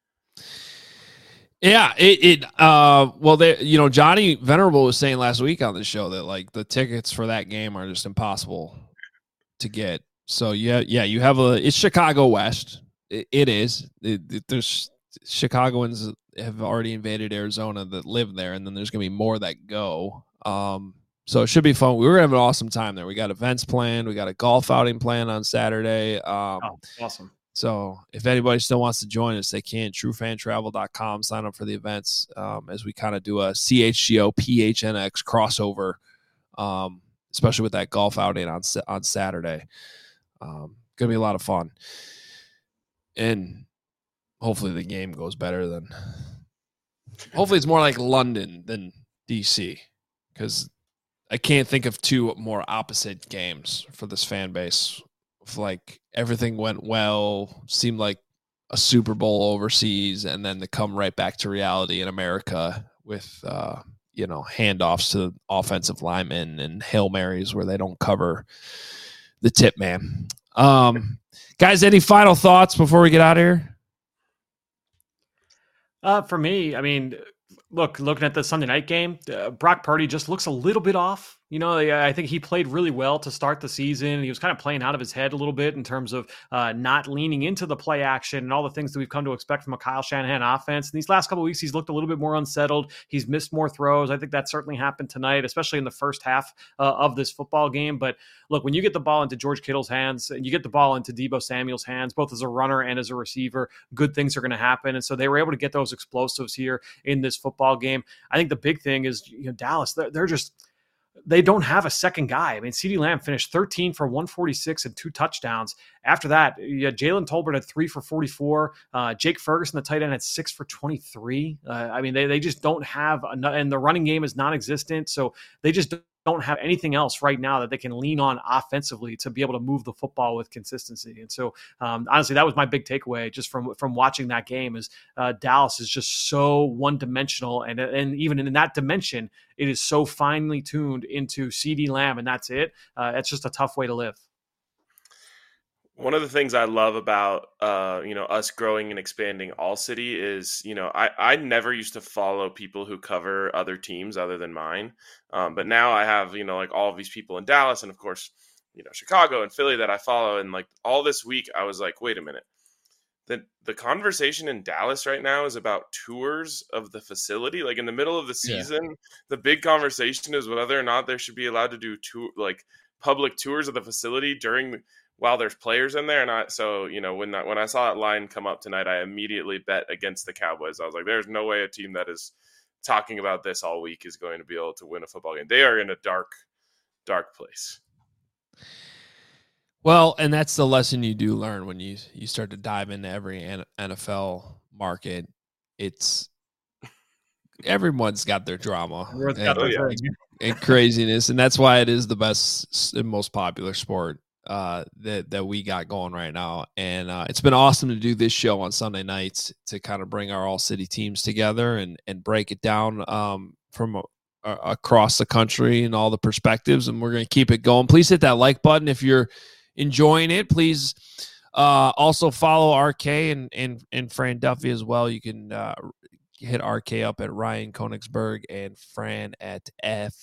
Yeah, it, it uh well they you know Johnny Venerable was saying last week on the show that like the tickets for that game are just impossible to get. So yeah, yeah, you have a it's Chicago West. It, it is. It, it, there's Chicagoans have already invaded Arizona that live there, and then there's gonna be more that go. Um, so it should be fun. We were gonna have an awesome time there. We got events planned. We got a golf outing planned on Saturday. Um, oh, awesome. So if anybody still wants to join us, they can. true fan travel dot com. Sign up for the events um, as we kind of do a C H G O P H N X crossover, um, especially with that golf outing on on Saturday. Um, gonna be a lot of fun, and hopefully the game goes better than. Hopefully it's more like London than D C, because I can't think of two more opposite games for this fan base. Like everything went well, seemed like a Super Bowl overseas, and then to come right back to reality in America with uh, you know handoffs to offensive linemen and Hail Marys where they don't cover the tip man. Um, guys, any final thoughts before we get out of here? Uh, for me, I mean, look, looking at the Sunday night game, uh, Brock Purdy just looks a little bit off. You know, I think he played really well to start the season. He was kind of playing out of his head a little bit in terms of uh, not leaning into the play action and all the things that we've come to expect from a Kyle Shanahan offense. In these last couple of weeks, he's looked a little bit more unsettled. He's missed more throws. I think that certainly happened tonight, especially in the first half uh, of this football game. But look, when you get the ball into George Kittle's hands and you get the ball into Deebo Samuel's hands, both as a runner and as a receiver, good things are going to happen. And so they were able to get those explosives here in this football game. I think the big thing is, you know, Dallas, they're, they're just – they don't have a second guy. I mean, CeeDee Lamb finished thirteen for one forty-six and two touchdowns. After that, yeah, Jalen Tolbert had three for forty-four. Uh, Jake Ferguson, the tight end, had six for twenty-three. Uh, I mean, they they just don't have – and the running game is non-existent. So they just don't have anything else right now that they can lean on offensively to be able to move the football with consistency. And so, um, honestly, that was my big takeaway just from from watching that game is uh, Dallas is just so one-dimensional. And, and even in that dimension, it is so finely tuned into CeeDee Lamb, and that's it. Uh, it's just a tough way to live. One of the things I love about, uh, you know, us growing and expanding All City is, you know, I, I never used to follow people who cover other teams other than mine. Um, but now I have, you know, like all of these people in Dallas and, of course, you know, Chicago and Philly that I follow. And like all this week, I was like, wait a minute. The, the conversation in Dallas right now is about tours of the facility. Like in the middle of the season, yeah. The big conversation is whether or not there should be allowed to do tour, like public tours of the facility during the, while there's players in there. And I, so, you know, when that, when I saw that line come up tonight, I immediately bet against the Cowboys. I was like, there's no way a team that is talking about this all week is going to be able to win a football game. They are in a dark, dark place. Well, and that's the lesson you do learn when you, you start to dive into every N F L market. It's everyone's got their drama and, got their and, and craziness. And that's why it is the best and most popular sport uh that that we got going right now. And uh it's been awesome to do this show on Sunday nights to kind of bring our all city teams together and and break it down um from a, a, across the country and all the perspectives, and we're going to keep it going. Please hit that like button if you're enjoying it. Please uh also follow R K and and and Fran Duffy as well. You can uh hit R K up at Ryan Konigsberg and Fran at F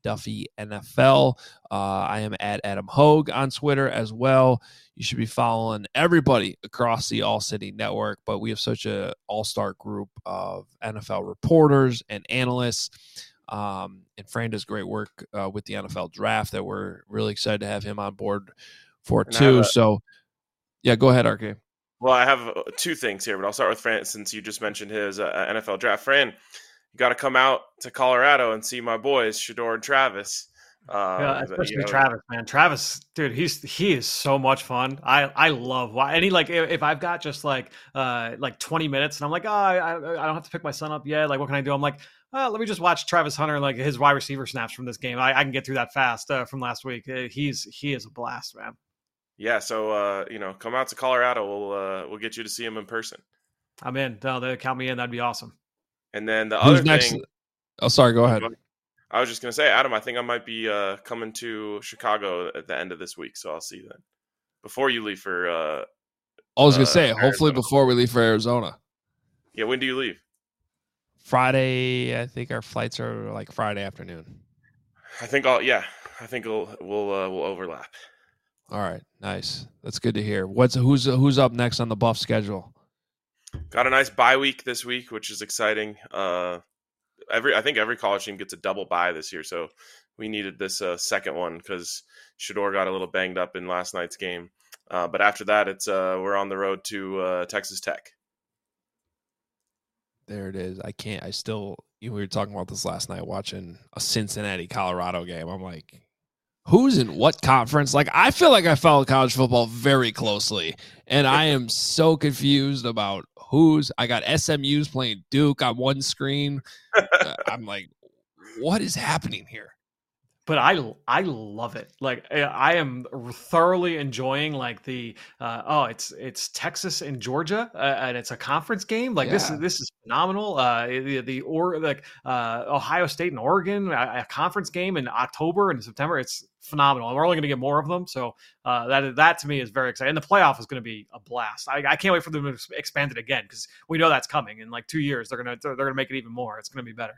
Duffy N F L. Uh, I am at Adam Hogue on Twitter as well. You should be following everybody across the All City Network, but we have such a all-star group of N F L reporters and analysts. Um, and Fran does great work uh, with the N F L draft that we're really excited to have him on board for And too. a, so, yeah, go ahead, R K. Well, I have uh, two things here, but I'll start with Fran since you just mentioned his uh, N F L draft. Fran, you got to come out to Colorado and see my boys, Shedeur and Travis. Um, yeah, especially you know, Travis, man. Travis, dude, he's he is so much fun. I I love why any like if, if I've got just like uh like twenty minutes and I'm like, oh, I I don't have to pick my son up yet. Like, what can I do? I'm like, oh, let me just watch Travis Hunter, like his wide receiver snaps from this game. I, I can get through that fast uh, from last week. Uh, he's he is a blast, man. Yeah, so uh, you know, come out to Colorado. We'll uh, we'll get you to see him in person. I'm in. No, they count me in. That'd be awesome. And then the Who's other next? thing. Oh, sorry. Go ahead. I was just gonna say, Adam, I think I might be uh, coming to Chicago at the end of this week, so I'll see you then. Before you leave for, uh, I was gonna uh, say, hopefully Arizona. before we leave for Arizona. Yeah, when do you leave? Friday, I think our flights are like Friday afternoon. I think I'll. Yeah, I think we'll we'll uh, we'll overlap. All right, nice. That's good to hear. What's who's who's up next on the Buff schedule? Got a nice bye week this week, which is exciting. Uh, every I think every college team gets a double bye this year, so we needed this uh, second one because Shedeur got a little banged up in last night's game. Uh, but after that, it's uh, we're on the road to uh, Texas Tech. There it is. I can't. I still. We were talking about this last night, watching a Cincinnati Colorado game. I'm like, who's in what conference? Like, I feel like I follow college football very closely, and I am so confused about who's. I got S M U's playing Duke on one screen. I'm like, what is happening here? But I I love it. Like I am thoroughly enjoying like the uh, oh it's it's Texas and Georgia uh, and it's a conference game. Like yeah. this is this is phenomenal. Uh, the the or like uh, Ohio State and Oregon a, a conference game in October and September. It's phenomenal. And we're only going to get more of them. So uh, that that to me is very exciting. And the playoff is going to be a blast. I, I can't wait for them to expand it again because we know that's coming in like two years. They're gonna they're, they're gonna make it even more. It's going to be better.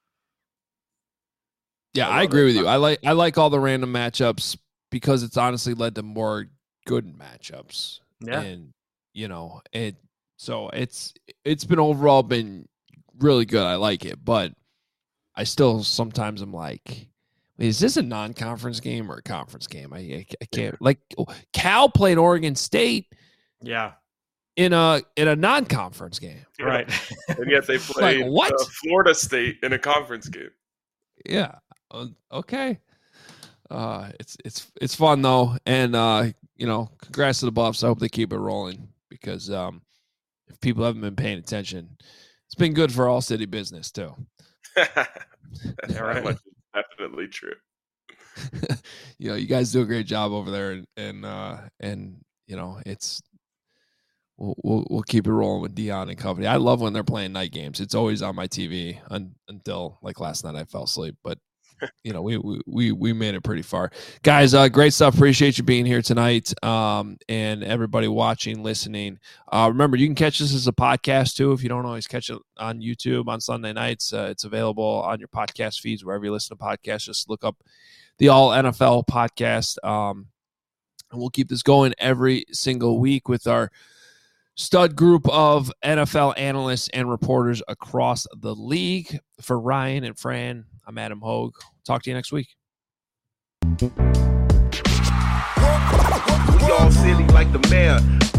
Yeah, I, I agree it. with you. I like I like all the random matchups because it's honestly led to more good matchups. Yeah, and you know it. So it's it's been overall been really good. I like it, but I still sometimes I'm like, is this a non-conference game or a conference game? I I, I can't. Yeah. Like Cal played Oregon State. Yeah. In a in a non-conference game, right? And yet they played like, what? Uh, Florida State in a conference game. Yeah. Uh, okay. Uh, it's it's it's fun though, and uh, you know, congrats to the Buffs. I hope they keep it rolling because um, if people haven't been paying attention, it's been good for all city business too. That's right. Definitely true. You know, you guys do a great job over there, and and uh, and you know, it's we'll, we'll we'll keep it rolling with Dion and company. I love when they're playing night games. It's always on my T V un, until like last night I fell asleep, but. You know, we we we made it pretty far, guys. Uh, great stuff. Appreciate you being here tonight, um, and everybody watching, listening. Uh, remember, you can catch this as a podcast too. If you don't always catch it on YouTube on Sunday nights, uh, it's available on your podcast feeds wherever you listen to podcasts. Just look up the All N F L podcast, um, and we'll keep this going every single week with our stud group of N F L analysts and reporters across the league. For Ryan and Fran, I'm Adam Hogue. Talk to you next week. We all silly like the mayor.